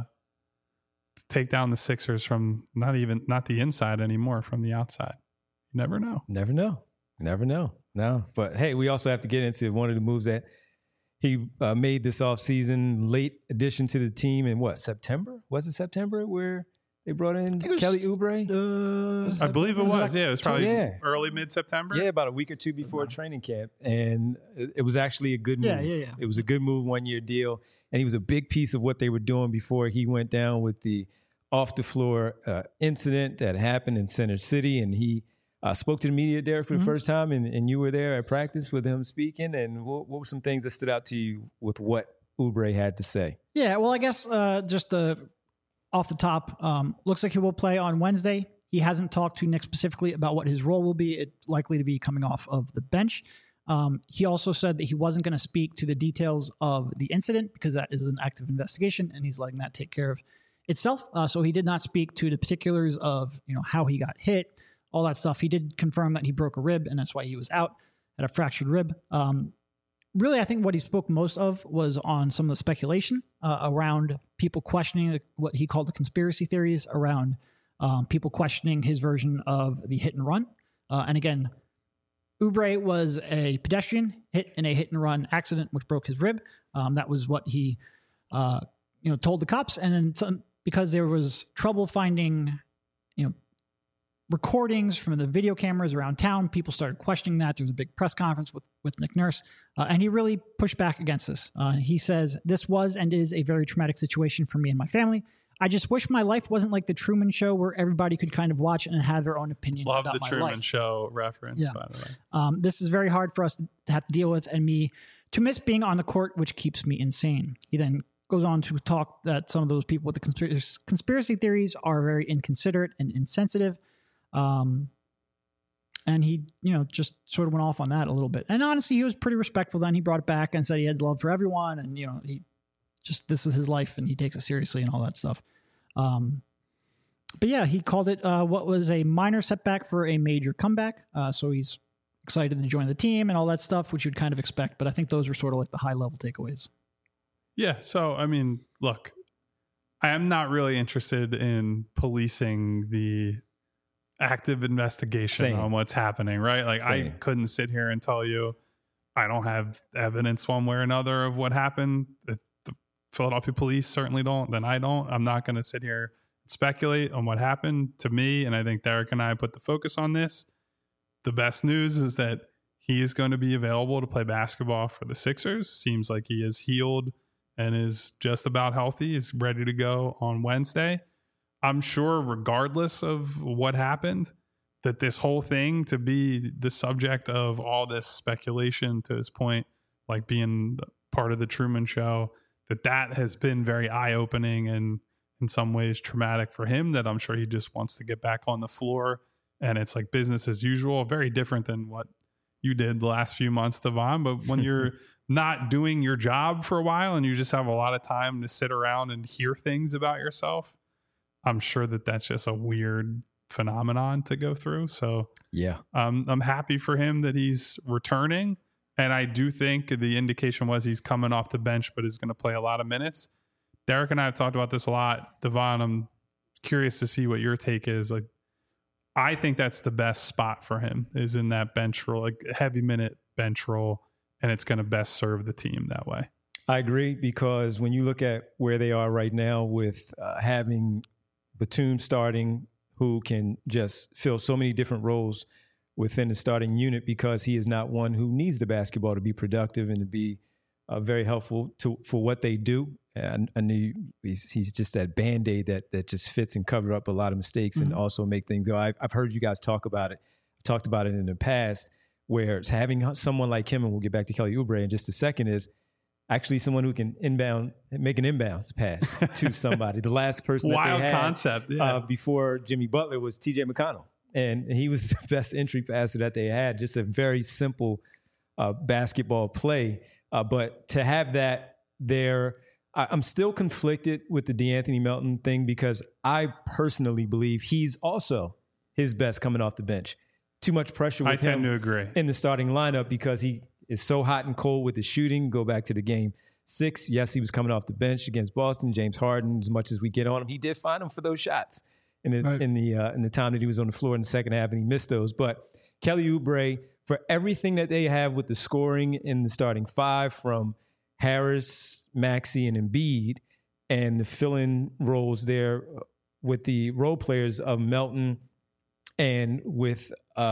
[SPEAKER 2] take down the Sixers from not the inside anymore, from the outside. You never know.
[SPEAKER 1] Never know. No, but hey, we also have to get into one of the moves that he made this offseason, late addition to the team in September? Was it September where they brought in Kelly Oubre?
[SPEAKER 2] I believe it was. Yeah, it was probably early mid-September.
[SPEAKER 1] Yeah, about a week or two before training camp. And it was actually a good move.
[SPEAKER 3] Yeah.
[SPEAKER 1] It was a good move, 1-year deal. And he was a big piece of what they were doing before he went down with the off-the-floor incident that happened in Center City. And he spoke to the media, Derek, for the first time. And you were there at practice with him speaking. And what were some things that stood out to you with what Oubre had to say?
[SPEAKER 3] Yeah, well, I guess just off the top, looks like he will play on Wednesday. He hasn't talked to Nick specifically about what his role will be. It's likely to be coming off of the bench. He also said that he wasn't going to speak to the details of the incident because that is an active investigation, and he's letting that take care of itself. So he did not speak to the particulars of how he got hit, all that stuff. He did confirm that he broke a rib, and that's why he was out, at a fractured rib. Really, I think what he spoke most of was on some of the speculation around people questioning what he called the conspiracy theories around people questioning his version of the hit and run. And again, Oubre was a pedestrian hit in a hit and run accident, which broke his rib. That was what he told the cops. And then because there was trouble finding recordings from the video cameras around town, people started questioning that. There was a big press conference with Nick Nurse, and he really pushed back against this. He says, "This was and is a very traumatic situation for me and my family. I just wish my life wasn't like the Truman Show where everybody could kind of watch and have their own opinion about my life."
[SPEAKER 2] Love the Truman Show reference, by the way.
[SPEAKER 3] This is very hard for us to have to deal with, and me to miss being on the court, which keeps me insane. He then goes on to talk that some of those people with the conspiracy theories are very inconsiderate and insensitive. And he, just sort of went off on that a little bit. And honestly, he was pretty respectful then. He brought it back and said he had love for everyone. And, this is his life and he takes it seriously and all that stuff. But yeah, he called it what was a minor setback for a major comeback. So he's excited to join the team and all that stuff, which you'd kind of expect. But I think those were sort of like the high level takeaways.
[SPEAKER 2] Yeah. So, I mean, look, I am not really interested in policing the active investigation on what's happening, right? Like I couldn't sit here and tell you I don't have evidence one way or another of what happened. If the Philadelphia police certainly don't, then I don't. I'm not going to sit here and speculate on what happened to me. And I think Derek and I put the focus on this. The best news is that he is going to be available to play basketball for the Sixers. Seems like he is healed and is just about healthy. He's ready to go on Wednesday. I'm sure regardless of what happened, that this whole thing to be the subject of all this speculation, to his point, like being part of the Truman Show, that has been very eye-opening and in some ways traumatic for him, that I'm sure he just wants to get back on the floor and it's like business as usual. Very different than what you did the last few months, Devon. But when you're not doing your job for a while and you just have a lot of time to sit around and hear things about yourself, I'm sure that's just a weird phenomenon to go through. So
[SPEAKER 1] yeah,
[SPEAKER 2] I'm happy for him that he's returning. And I do think the indication was he's coming off the bench, but is going to play a lot of minutes. Derek and I have talked about this a lot. Devon, I'm curious to see what your take is. Like, I think that's the best spot for him, is in that bench role, like heavy minute bench role. And it's going to best serve the team that way.
[SPEAKER 1] I agree, because when you look at where they are right now with having Batum starting, who can just fill so many different roles within the starting unit, because he is not one who needs the basketball to be productive and to be very helpful for what they do. And he's just that Band-Aid that just fits and covers up a lot of mistakes and also make things go. I've heard you guys talk about it. I've talked about it in the past, where it's having someone like him, and we'll get back to Kelly Oubre in just a second, is actually someone who can make an inbounds pass to somebody. The last person that
[SPEAKER 2] wild
[SPEAKER 1] they had
[SPEAKER 2] concept
[SPEAKER 1] before Jimmy Butler was TJ McConnell. And he was the best entry passer that they had. Just a very simple basketball play. But to have that there, I'm still conflicted with the DeAnthony Melton thing because I personally believe he's also his best coming off the bench. Too much pressure with him.
[SPEAKER 2] I tend to agree.
[SPEAKER 1] In the starting lineup because he is so hot and cold with his shooting. Go back to the game 6. Yes, he was coming off the bench against Boston. James Harden, as much as we get on him, he did find him for those shots in the time that he was on the floor in the second half, and he missed those. But Kelly Oubre, for everything that they have with the scoring in the starting 5 from Harris, Maxey, and Embiid, and the fill-in roles there with the role players of Melton and with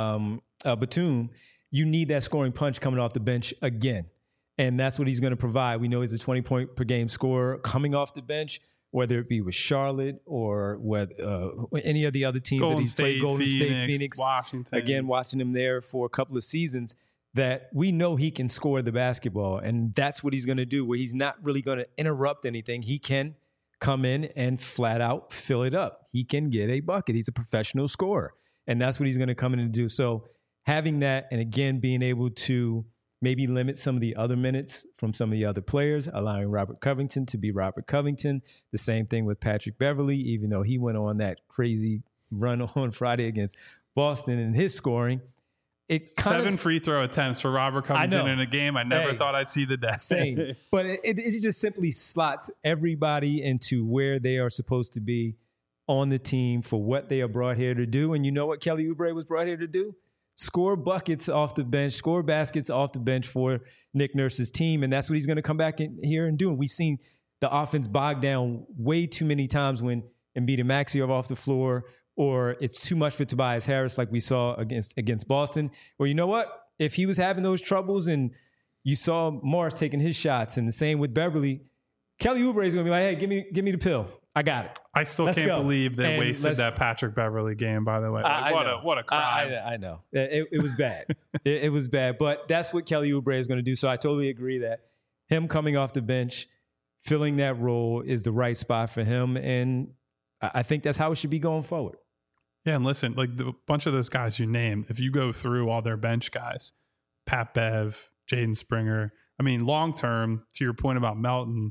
[SPEAKER 1] Batum, you need that scoring punch coming off the bench again. And that's what he's going to provide. We know he's a 20-point per game scorer coming off the bench, whether it be with Charlotte or with any of the other teams that he's played, Golden State, Phoenix,
[SPEAKER 2] Washington.
[SPEAKER 1] Again, watching him there for a couple of seasons, that we know he can score the basketball. And that's what he's going to do, where he's not really going to interrupt anything. He can come in and flat out fill it up. He can get a bucket. He's a professional scorer. And that's what he's going to come in and do. So having that, and again, being able to maybe limit some of the other minutes from some of the other players, allowing Robert Covington to be Robert Covington. The same thing with Patrick Beverley, even though he went on that crazy run on Friday against Boston in his scoring. It
[SPEAKER 2] 7 free throw attempts for Robert Covington in a game I never thought I'd see the day.
[SPEAKER 1] Same. But it just simply slots everybody into where they are supposed to be on the team for what they are brought here to do. And you know what Kelly Oubre was brought here to do? Score buckets off the bench, score baskets off the bench for Nick Nurse's team. And that's what he's going to come back in here and do. And we've seen the offense bogged down way too many times when Embiid and Maxey are off the floor, or it's too much for Tobias Harris like we saw against Boston. Or you know what? If he was having those troubles and you saw Morris taking his shots and the same with Beverly, Kelly Oubre is going to be like, hey, give me the pill. I got it.
[SPEAKER 2] I still can't believe they wasted that Patrick Beverley game, by the way. What a crime.
[SPEAKER 1] I know. It was bad. it was bad. But that's what Kelly Oubre is going to do. So I totally agree that him coming off the bench, filling that role is the right spot for him. And I think that's how it should be going forward.
[SPEAKER 2] Yeah, and listen, like the bunch of those guys you named, if you go through all their bench guys, Pat Bev, Jaden Springer, I mean, long term, to your point about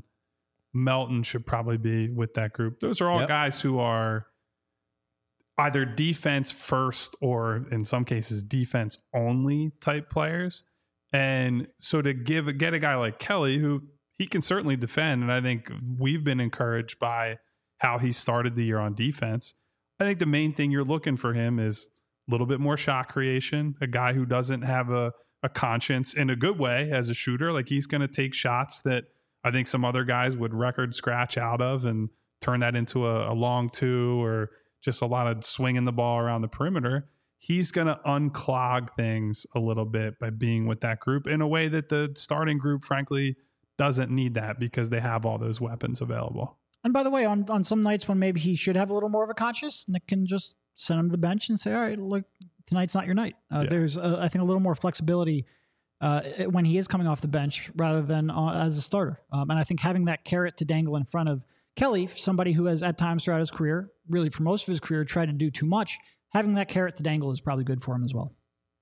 [SPEAKER 2] Melton should probably be with that group. Those are all guys who are either defense first or in some cases defense only type players. And so to get a guy like Kelly, who he can certainly defend, and I think we've been encouraged by how he started the year on defense. I think the main thing you're looking for him is a little bit more shot creation, a guy who doesn't have a conscience in a good way as a shooter. Like he's going to take shots that I think some other guys would record scratch out of and turn that into a long 2 or just a lot of swinging the ball around the perimeter. He's going to unclog things a little bit by being with that group in a way that the starting group, frankly, doesn't need that because they have all those weapons available.
[SPEAKER 3] And by the way, on some nights when maybe he should have a little more of a conscience, Nick can just send him to the bench and say, all right, look, tonight's not your night. There's, I think, a little more flexibility when he is coming off the bench rather than as a starter. And I think having that carrot to dangle in front of Kelly, somebody who has at times throughout his career, really for most of his career, tried to do too much, having that carrot to dangle is probably good for him as well.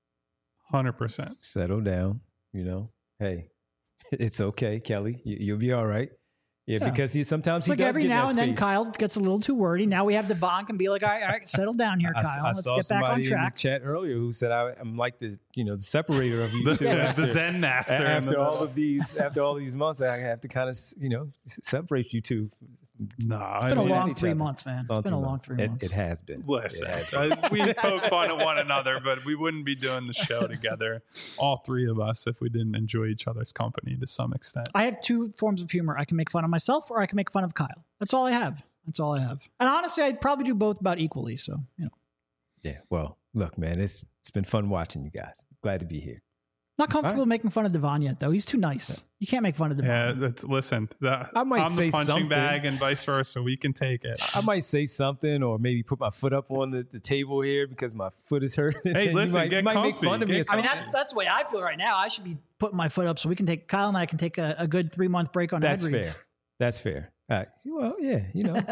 [SPEAKER 2] 100%.
[SPEAKER 1] Settle down, Hey, it's okay, Kelly. You'll be all right. Yeah, because sometimes he does
[SPEAKER 3] every
[SPEAKER 1] get
[SPEAKER 3] now
[SPEAKER 1] that
[SPEAKER 3] and then
[SPEAKER 1] space.
[SPEAKER 3] Kyle gets a little too wordy. Now we have Devon can be like, all right, settle down here, Kyle. Let's get back on track.
[SPEAKER 1] In the chat earlier who said I'm like the the separator of you two.
[SPEAKER 2] The Zen master.
[SPEAKER 1] After all these months, I have to kind of separate you two.
[SPEAKER 2] No,
[SPEAKER 3] it's been a long 3 months, man. It's been a long 3 months.
[SPEAKER 1] It has been.
[SPEAKER 2] Listen, we poke fun at one another, but we wouldn't be doing the show together, all 3 of us, if we didn't enjoy each other's company to some extent.
[SPEAKER 3] I have 2 forms of humor. I can make fun of myself or I can make fun of Kyle. That's all I have. And honestly, I'd probably do both about equally. So,
[SPEAKER 1] Yeah. Well, look, man, it's been fun watching you guys. Glad to be here.
[SPEAKER 3] Not comfortable making fun of Devon yet, though. He's too nice. You can't make fun of Devon.
[SPEAKER 2] Yeah, listen.
[SPEAKER 1] I might
[SPEAKER 2] I'm
[SPEAKER 1] say
[SPEAKER 2] the punching
[SPEAKER 1] something.
[SPEAKER 2] bag and vice versa. We can take it.
[SPEAKER 1] I might say something, or maybe put my foot up on the table here because my foot is hurting.
[SPEAKER 2] Hey, listen,
[SPEAKER 1] you might make
[SPEAKER 2] comfy.
[SPEAKER 1] fun of me. Or
[SPEAKER 3] I mean,
[SPEAKER 1] something.
[SPEAKER 3] that's the way I feel right now. I should be putting my foot up so we can take Kyle and I can take a good 3-month break on
[SPEAKER 1] That's
[SPEAKER 3] ad reads.
[SPEAKER 1] fair. That's fair. Well, yeah,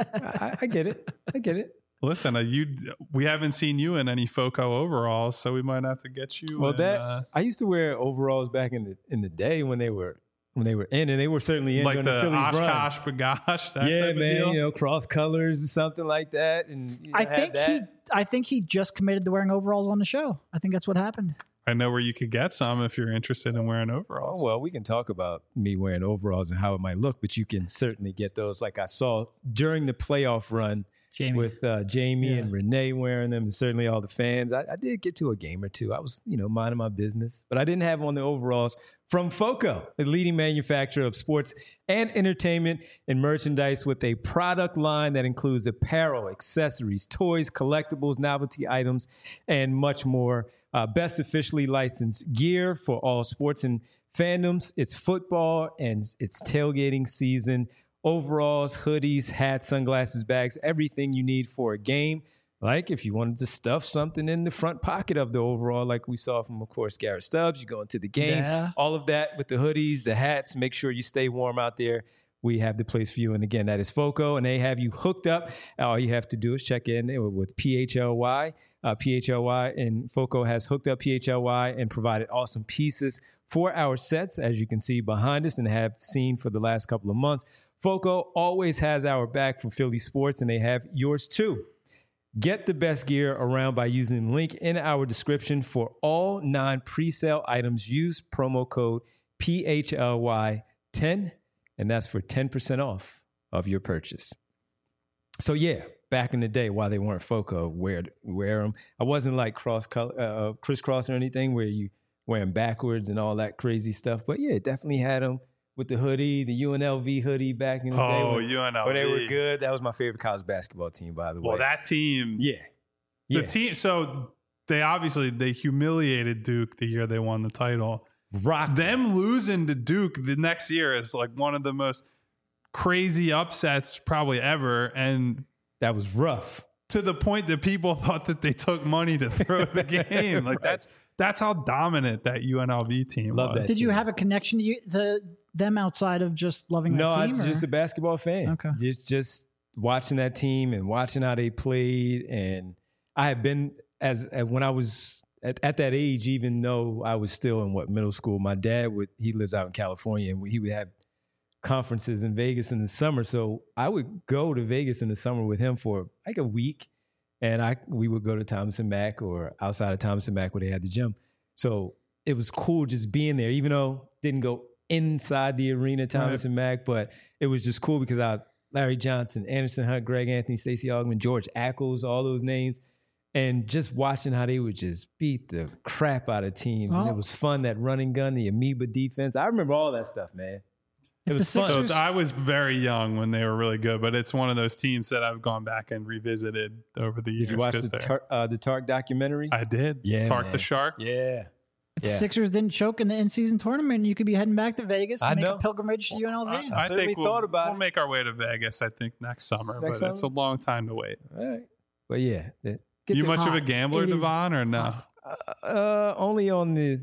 [SPEAKER 1] I get it. I get it.
[SPEAKER 2] Listen, we haven't seen you in any FOCO overalls, so we might have to get you.
[SPEAKER 1] Well, I used to wear overalls back in the day when they were in, and they were certainly in
[SPEAKER 2] like
[SPEAKER 1] during
[SPEAKER 2] the
[SPEAKER 1] the Phillies run.
[SPEAKER 2] Oshkosh Bagosh. That
[SPEAKER 1] Yeah,
[SPEAKER 2] type of
[SPEAKER 1] man,
[SPEAKER 2] deal?
[SPEAKER 1] cross colors or something like that. And
[SPEAKER 3] I think he just committed to wearing overalls on the show. I think that's what happened.
[SPEAKER 2] I know where you could get some if you're interested in wearing overalls.
[SPEAKER 1] Oh, well, we can talk about me wearing overalls and how it might look, but you can certainly get those. Like I saw during the playoff run.
[SPEAKER 3] Jamie.
[SPEAKER 1] With Jamie and Renee wearing them, and certainly all the fans. I did get to a game or two. I was, minding my business, but I didn't have on the overalls from FOCO, the leading manufacturer of sports and entertainment and merchandise with a product line that includes apparel, accessories, toys, collectibles, novelty items, and much more. Best officially licensed gear for all sports and fandoms. It's football and it's tailgating season. Overalls, hoodies, hats, sunglasses, bags, everything you need for a game. Like if you wanted to stuff something in the front pocket of the overall, like we saw from, of course, Garrett Stubbs, you go into the game. Yeah. All of that with the hoodies, the hats, make sure you stay warm out there. We have the place for you. And again, that is FOCO, and they have you hooked up. All you have to do is check in with PHLY. PHLY, and FOCO has hooked up PHLY and provided awesome pieces for our sets, as you can see behind us and have seen for the last couple of months. FOCO always has our back for Philly sports, and they have yours too. Get the best gear around by using the link in our description for all 9 pre-sale items. Use promo code PHLY10, and that's for 10% off of your purchase. So yeah, back in the day, while they weren't FOCO, wear them. I wasn't like crisscross or anything where you wear them backwards and all that crazy stuff. But yeah, definitely had them. With the hoodie, the UNLV hoodie back in the day.
[SPEAKER 2] UNLV.
[SPEAKER 1] When they were good. That was my favorite college basketball team, by the way.
[SPEAKER 2] Well, that team.
[SPEAKER 1] Yeah.
[SPEAKER 2] The team. So they humiliated Duke the year they won the title. Them losing to Duke the next year is like one of the most crazy upsets probably ever. And
[SPEAKER 1] that was rough.
[SPEAKER 2] To the point that people thought that they took money to throw the game. Like right. That's how dominant that UNLV team was.
[SPEAKER 3] Did you have a connection to them outside of just loving that team?
[SPEAKER 1] No, I'm just a basketball fan.
[SPEAKER 3] Okay.
[SPEAKER 1] Just watching that team and watching how they played. And I had been, when I was at that age, even though I was still in middle school, my dad he lives out in California, and he would have conferences in Vegas in the summer. So I would go to Vegas in the summer with him for like a week. And we would go to Thomas and Mack or outside of Thomas and Mack where they had the gym. So it was cool just being there, even though didn't go inside the arena, Thomas and Mack, but it was just cool because Larry Johnson, Anderson Hunt, Greg Anthony, Stacey Augmon, George Ackles, all those names, and just watching how they would just beat the crap out of teams. And it was fun, that running gun, the amoeba defense. I remember all that stuff, man. It was fun.
[SPEAKER 2] So I was very young when they were really good, but it's one of those teams that I've gone back and revisited over the years.
[SPEAKER 1] Did you watch the Tark documentary?
[SPEAKER 2] I did.
[SPEAKER 1] Yeah,
[SPEAKER 2] Tark the Shark.
[SPEAKER 1] Yeah.
[SPEAKER 3] If the Sixers didn't choke in the in-season tournament, you could be heading back to Vegas and make a pilgrimage to UNLV.
[SPEAKER 2] I think we'll make our way to Vegas, I think, next summer, but it's a long time to wait.
[SPEAKER 1] All right. But yeah.
[SPEAKER 2] You much of a gambler, Devon, or no?
[SPEAKER 1] Only on the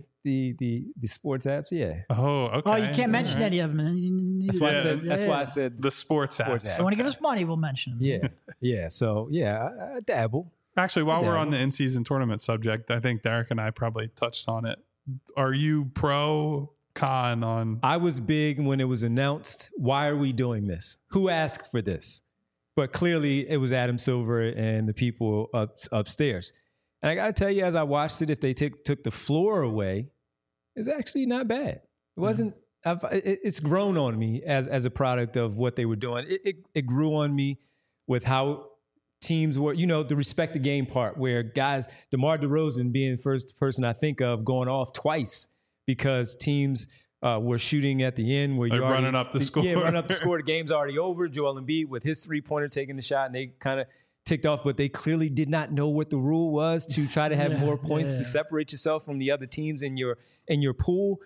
[SPEAKER 1] sports apps, yeah.
[SPEAKER 2] Oh, okay.
[SPEAKER 3] Oh, you can't mention any of them.
[SPEAKER 1] That's why I said
[SPEAKER 2] the sports apps.
[SPEAKER 3] So when you give us money, we'll mention them.
[SPEAKER 1] Yeah. So I dabble.
[SPEAKER 2] Actually, while we're on the in-season tournament subject, I think Derek and I probably touched on it. Are you pro, con on?
[SPEAKER 1] I was big when it was announced. Why are we doing this? Who asked for this? But clearly, it was Adam Silver and the people upstairs. And I got to tell you, as I watched it, if they took the floor away, it's actually not bad. It wasn't. It's grown on me as a product of what they were doing. It grew on me with how teams were, the respect the game part, where guys, DeMar DeRozan being the first person I think of going off twice because teams were shooting at the end where you're
[SPEAKER 2] running up the score.
[SPEAKER 1] Yeah, running up the score. The game's already over. Joel Embiid with his 3-pointer taking the shot, and they kind of ticked off, but they clearly did not know what the rule was to try to have more points to separate yourself from the other teams in your pool.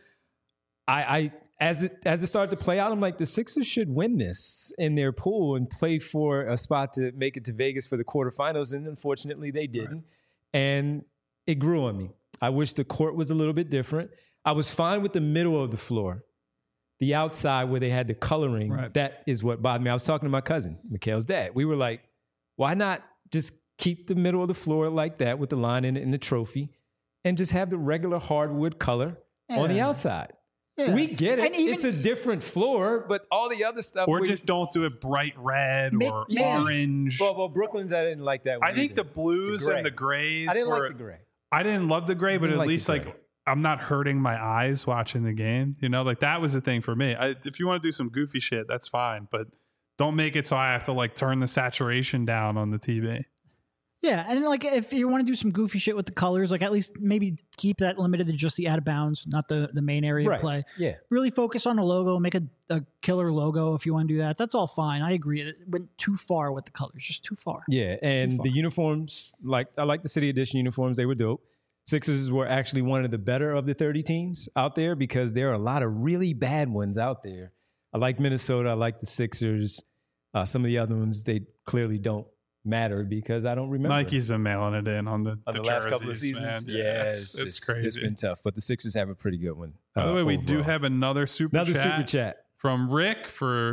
[SPEAKER 1] As it started to play out, I'm like, the Sixers should win this in their pool and play for a spot to make it to Vegas for the quarterfinals. And unfortunately, they didn't. Right. And it grew on me. I wish the court was a little bit different. I was fine with the middle of the floor. The outside where they had the coloring, that is what bothered me. I was talking to my cousin, Mikhail's dad. We were like, why not just keep the middle of the floor like that with the line in it and the trophy and just have the regular hardwood color on the outside? Yeah. We get it. It's a different floor, but all the other stuff.
[SPEAKER 2] Or just don't do it bright red or orange.
[SPEAKER 1] Well, Brooklyn's, I didn't like that one.
[SPEAKER 2] I think the blues and the grays.
[SPEAKER 1] I didn't like the gray.
[SPEAKER 2] I didn't love the gray, but at least I'm not hurting my eyes watching the game. You know, like that was the thing for me. If you want to do some goofy shit, that's fine, but don't make it so I have to like turn the saturation down on the TV.
[SPEAKER 3] Yeah, and like if you want to do some goofy shit with the colors, like at least maybe keep that limited to just the out of bounds, not the main area of play.
[SPEAKER 1] Yeah,
[SPEAKER 3] really focus on a logo, make a killer logo if you want to do that. That's all fine. I agree. It went too far with the colors, just too far.
[SPEAKER 1] Yeah, and the uniforms, I like the City Edition uniforms. They were dope. Sixers were actually one of the better of the 30 teams out there because there are a lot of really bad ones out there. I like Minnesota. I like the Sixers. Some of the other ones, they clearly don't matter because I don't remember.
[SPEAKER 2] Nike's been mailing it in on the
[SPEAKER 1] last couple of seasons.
[SPEAKER 2] Man. Yeah, it's crazy.
[SPEAKER 1] It's been tough, but the Sixers have a pretty good one.
[SPEAKER 2] By the way, we do have another super chat from Rick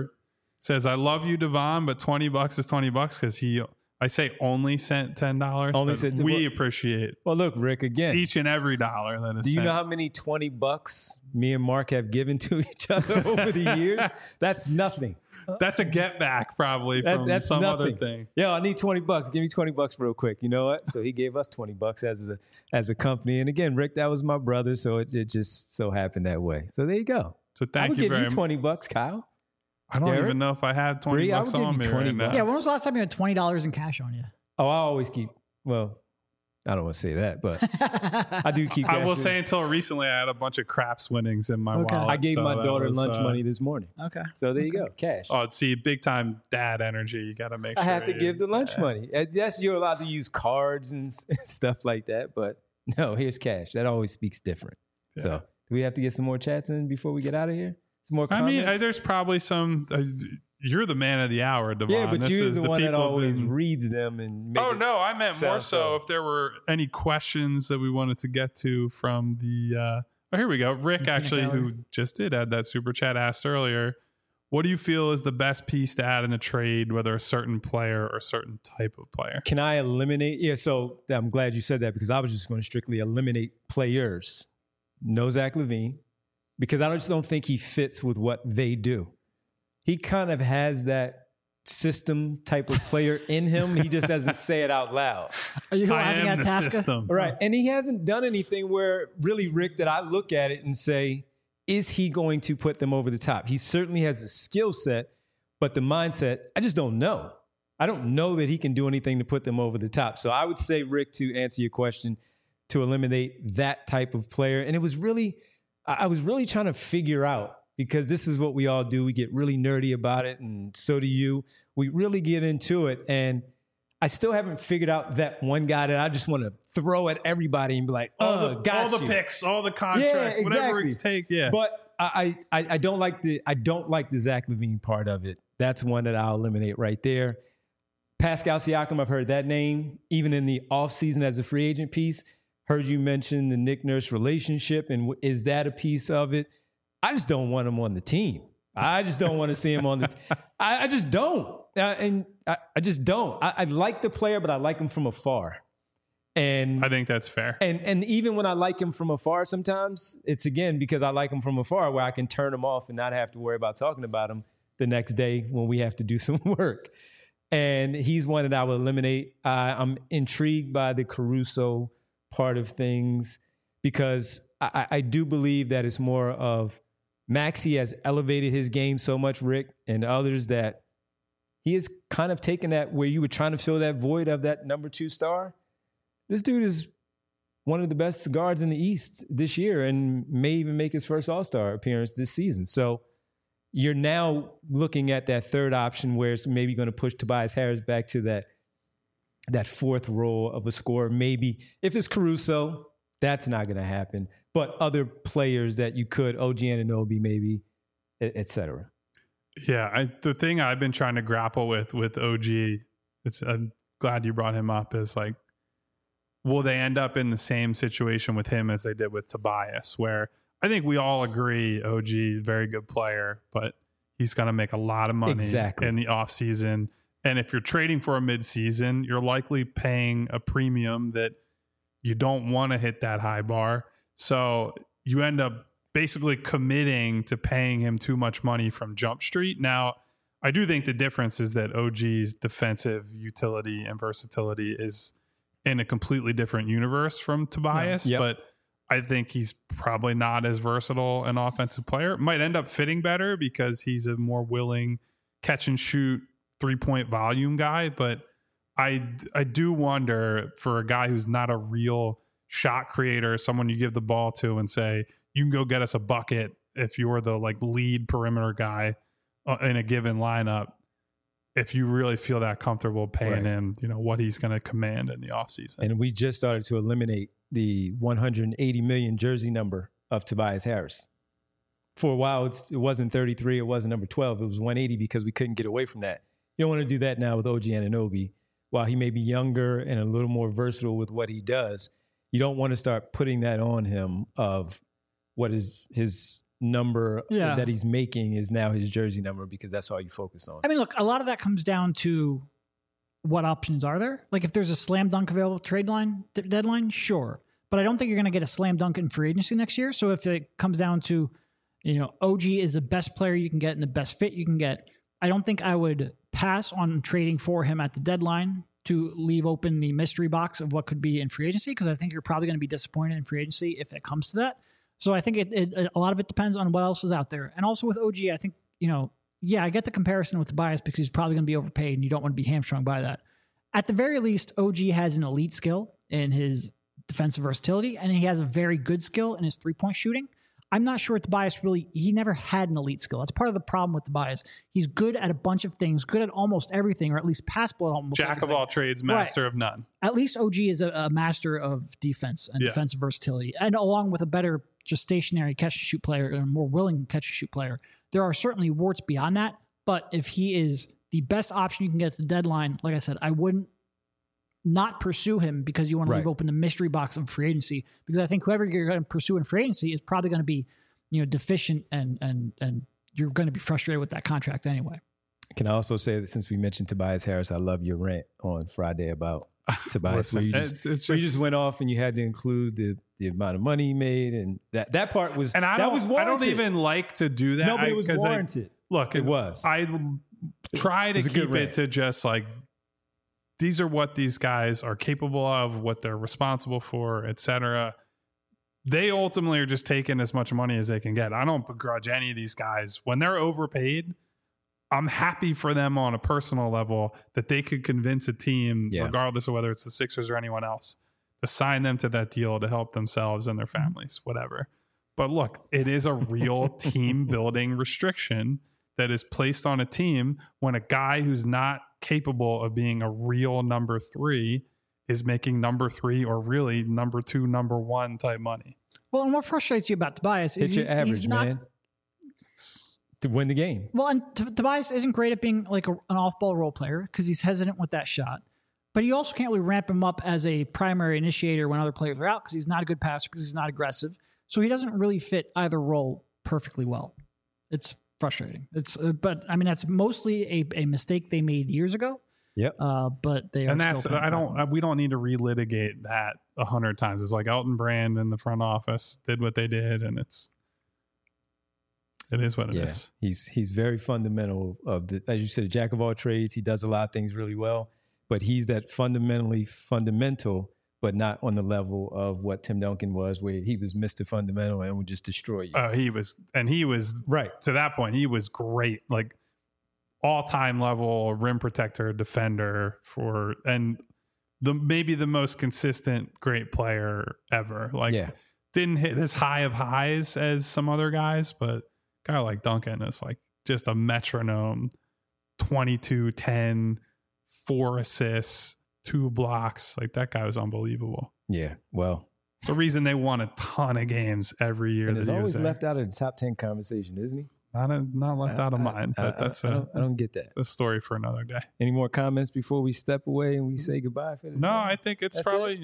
[SPEAKER 2] says, I love you, Devon, but $20 is $20 because I say only sent $10. Only sent. We appreciate.
[SPEAKER 1] Well, look, Rick, again,
[SPEAKER 2] each and every dollar that is.
[SPEAKER 1] Do you know how many $20 me and Mark have given to each other over the years? That's nothing.
[SPEAKER 2] That's a get back probably from that's some nothing. Other thing.
[SPEAKER 1] Yeah, I need $20. Give me $20 real quick. You know what? So he gave us $20 as a company. And again, Rick, that was my brother, so it just so happened that way. So there you go.
[SPEAKER 2] So thank you very much.
[SPEAKER 1] I would give you $20, Kyle.
[SPEAKER 2] I don't even know if I had $20 on me right now.
[SPEAKER 3] Yeah, when was the last time you had $20 in cash on you?
[SPEAKER 1] Oh, I always keep. Well, I don't want to say that, but I do keep.
[SPEAKER 2] I will say until recently, I had a bunch of craps winnings in my wallet.
[SPEAKER 1] I gave my daughter lunch money this morning.
[SPEAKER 3] Okay,
[SPEAKER 1] so there you go, cash.
[SPEAKER 2] Oh, see, big time dad energy. You got to make.
[SPEAKER 1] I have to give the lunch money. Yes, you're allowed to use cards and stuff like that, but no, here's cash. That always speaks different. Yeah. So, do we have to get some more chats in before we get out of here? Some more comments?
[SPEAKER 2] I mean, there's probably some. You're the man of the hour, Devon.
[SPEAKER 1] Yeah, but you're the one that always reads them and.
[SPEAKER 2] I meant more so if there were any questions that we wanted to get to from the. Here we go. Rick actually, who just did add that super chat, asked earlier, "What do you feel is the best piece to add in the trade, whether a certain player or a certain type of player?"
[SPEAKER 1] Can I eliminate? Yeah, so I'm glad you said that because I was just going to strictly eliminate players. No Zach LaVine. Because I just don't think he fits with what they do. He kind of has that system type of player in him. He just doesn't say it out loud.
[SPEAKER 3] Are you laughing at Kafka?
[SPEAKER 2] System.
[SPEAKER 1] Right. And he hasn't done anything where really, Rick, that I look at it and say, is he going to put them over the top? He certainly has the skill set, but the mindset, I just don't know. I don't know that he can do anything to put them over the top. So I would say, Rick, to answer your question, to eliminate that type of player. And I was really trying to figure out, because this is what we all do. We get really nerdy about it, and so do you. We really get into it, and I still haven't figured out that one guy that I just want to throw at everybody and be like,
[SPEAKER 2] all the picks, all the contracts, whatever it's take. Yeah,
[SPEAKER 1] but I don't like the Zach LaVine part of it. That's one that I'll eliminate right there. Pascal Siakam, I've heard that name even in the offseason as a free agent piece. Heard you mention the Nick Nurse relationship, and is that a piece of it? I just don't want him on the team. I just don't want to see him on the I just don't. And I just don't. I like the player, but I like him from afar. And
[SPEAKER 2] I think that's fair.
[SPEAKER 1] And even when I like him from afar, sometimes it's, again, because I like him from afar where I can turn him off and not have to worry about talking about him the next day when we have to do some work. And he's one that I would eliminate. I'm intrigued by the Caruso part of things because I do believe that it's more of Maxey has elevated his game so much, Rick, and others, that he has kind of taken that where you were trying to fill that void of that number 2 star. This dude is one of the best guards in the East this year and may even make his first All-Star appearance this season. So you're now looking at that third option where it's maybe going to push Tobias Harris back to that that fourth role of a scorer. Maybe if it's Caruso, that's not going to happen. But other players that you could, OG Anunoby maybe, et cetera.
[SPEAKER 2] Yeah, the thing I've been trying to grapple with OG, I'm glad you brought him up, is like, will they end up in the same situation with him as they did with Tobias, where I think we all agree OG, very good player, but he's going to make a lot of money in the offseason. And if you're trading for a midseason, you're likely paying a premium that you don't want to hit that high bar. So you end up basically committing to paying him too much money from Jump Street. Now, I do think the difference is that OG's defensive utility and versatility is in a completely different universe from Tobias, but I think he's probably not as versatile an offensive player. It might end up fitting better because he's a more willing catch and shoot 3-point volume guy. But I do wonder, for a guy who's not a real shot creator, someone you give the ball to and say, you can go get us a bucket if you're the like lead perimeter guy in a given lineup, if you really feel that comfortable paying him, what he's going to command in the offseason.
[SPEAKER 1] And we just started to eliminate the 180 million jersey number of Tobias Harris. For a while, it wasn't 33. It wasn't number 12. It was 180 because we couldn't get away from that. You don't want to do that now with OG Anunoby. While he may be younger and a little more versatile with what he does, you don't want to start putting that on him of what is his number that he's making is now his jersey number, because that's all you focus on.
[SPEAKER 3] I mean, look, a lot of that comes down to what options are there. Like if there's a slam dunk available trade deadline, sure. But I don't think you're going to get a slam dunk in free agency next year. So if it comes down to, OG is the best player you can get and the best fit you can get, I don't think I would pass on trading for him at the deadline to leave open the mystery box of what could be in free agency, because I think you're probably going to be disappointed in free agency if it comes to that. So I think a lot of it depends on what else is out there. And also with OG, I think, I get the comparison with Tobias because he's probably going to be overpaid and you don't want to be hamstrung by that. At the very least, OG has an elite skill in his defensive versatility, and he has a very good skill in his 3-point shooting. I'm not sure Tobias he never had an elite skill. That's part of the problem with Tobias. He's good at a bunch of things, good at almost everything, or at least passable at almost
[SPEAKER 2] everything. Jack of all trades, master of none.
[SPEAKER 3] At least OG is a master of defense and defensive versatility. And along with a better just stationary catch-and-shoot player, or a more willing catch-and-shoot player, there are certainly warts beyond that. But if he is the best option you can get at the deadline, like I said, I wouldn't not pursue him because you want to leave open the mystery box of free agency, because I think whoever you're going to pursue in free agency is probably going to be, deficient and you're going to be frustrated with that contract anyway.
[SPEAKER 1] Can I also say that since we mentioned Tobias Harris, I love your rant on Friday about Tobias, where you just went off and you had to include the amount of money he made, and that part was,
[SPEAKER 2] and that was warranted. I don't even like to do that.
[SPEAKER 1] No, but it was warranted.
[SPEAKER 2] It was. I try to keep it to just like, these are what these guys are capable of, what they're responsible for, etc. They ultimately are just taking as much money as they can get. I don't begrudge any of these guys. When they're overpaid, I'm happy for them on a personal level that they could convince a team, regardless of whether it's the Sixers or anyone else, to sign them to that deal to help themselves and their families, whatever. But look, it is a real team building restriction that is placed on a team when a guy who's not capable of being a real number 3 is making number 3 or really number 2, number 1 type money.
[SPEAKER 3] Well, and what frustrates you about Tobias is
[SPEAKER 1] your average, man. To win the game.
[SPEAKER 3] Well, and Tobias isn't great at being like an off-ball role player because he's hesitant with that shot. But you also can't really ramp him up as a primary initiator when other players are out because he's not a good passer, because he's not aggressive. So he doesn't really fit either role perfectly well. It's frustrating. But I mean, that's mostly a mistake they made years ago.
[SPEAKER 1] Yep.
[SPEAKER 3] But they are.
[SPEAKER 2] And that's we don't need to relitigate that 100 times. It's like Elton Brand in the front office did what they did, and it is what it is.
[SPEAKER 1] He's very fundamental of as you said, a jack of all trades. He does a lot of things really well, but he's that fundamentally fundamental, but not on the level of what Tim Duncan was, where he was Mr. Fundamental and would just destroy you.
[SPEAKER 2] Oh, he was right to that point. He was great, like all-time level rim protector, defender and maybe the most consistent great player ever. Didn't hit as high of highs as some other guys, but a guy like Duncan is like just a metronome. 22, 10, 4 assists, 2 blocks. Like that guy was unbelievable.
[SPEAKER 1] Yeah. Well,
[SPEAKER 2] it's the reason they won a ton of games every year.
[SPEAKER 1] And he's always left out of the top 10 conversation, isn't he?
[SPEAKER 2] Not left out of mine, but I
[SPEAKER 1] don't get that.
[SPEAKER 2] It's a story for another day.
[SPEAKER 1] Any more comments before we step away and we say goodbye for the day?
[SPEAKER 2] I think it's probably,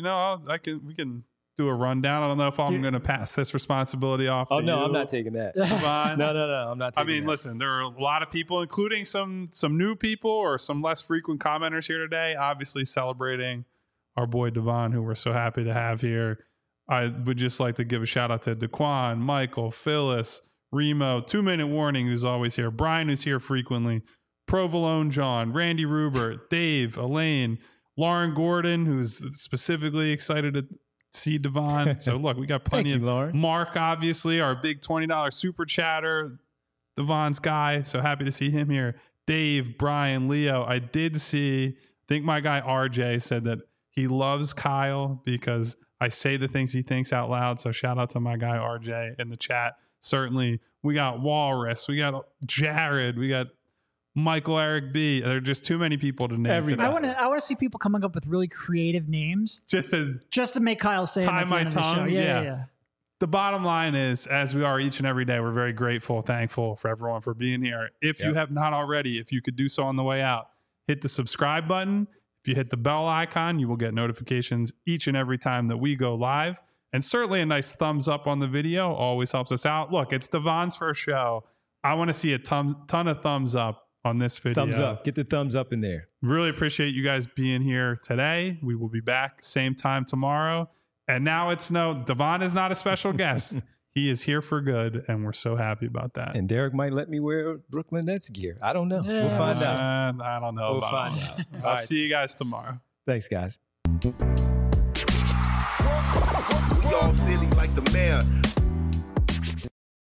[SPEAKER 2] we can do a rundown. I don't know if I'm going to pass this responsibility off to you.
[SPEAKER 1] No, I'm not taking that.
[SPEAKER 2] No,
[SPEAKER 1] I'm not taking that.
[SPEAKER 2] I mean, listen, there are a lot of people, including some new people or some less frequent commenters here today, obviously celebrating our boy Devon, who we're so happy to have here. I would just like to give a shout out to Daquan, Michael, Phyllis, Remo, 2 Minute Warning, who's always here, Brian, who's here frequently, Provolone John, Randy Rubert, Dave, Elaine, Lauren Gordon, who's specifically excited to see Devon. So look, we got plenty of
[SPEAKER 1] Lauren.
[SPEAKER 2] Mark, obviously, our big $20 super chatter, Devon's guy. So happy to see him here. Dave, Brian, Leo. I did see, I think my guy RJ said that he loves Kyle because I say the things he thinks out loud. So shout out to my guy RJ in the chat. Certainly, we got Walrus, we got Jared, we got Michael Eric B. There are just too many people to name.
[SPEAKER 3] I want to see people coming up with really creative names
[SPEAKER 2] just to
[SPEAKER 3] make Kyle say
[SPEAKER 2] tie my tongue.
[SPEAKER 3] Yeah.
[SPEAKER 2] The bottom line is, as we are each and every day, we're very grateful, thankful for everyone for being here. If you have not already, if you could do so on the way out, hit the subscribe button. If you hit the bell icon, you will get notifications each and every time that we go live. And certainly a nice thumbs up on the video always helps us out. Look, it's Devon's first show. I want to see a ton of thumbs up on this video.
[SPEAKER 1] Thumbs up. Get the thumbs up in there.
[SPEAKER 2] Really appreciate you guys being here today. We will be back same time tomorrow. And now Devon is not a special guest. He is here for good, and we're so happy about that.
[SPEAKER 1] And Derek might let me wear Brooklyn Nets gear. I don't know. We'll find out.
[SPEAKER 2] I don't know.
[SPEAKER 1] We'll find out.
[SPEAKER 2] I'll see you guys tomorrow.
[SPEAKER 1] Thanks, guys.
[SPEAKER 4] We all silly like the mayor.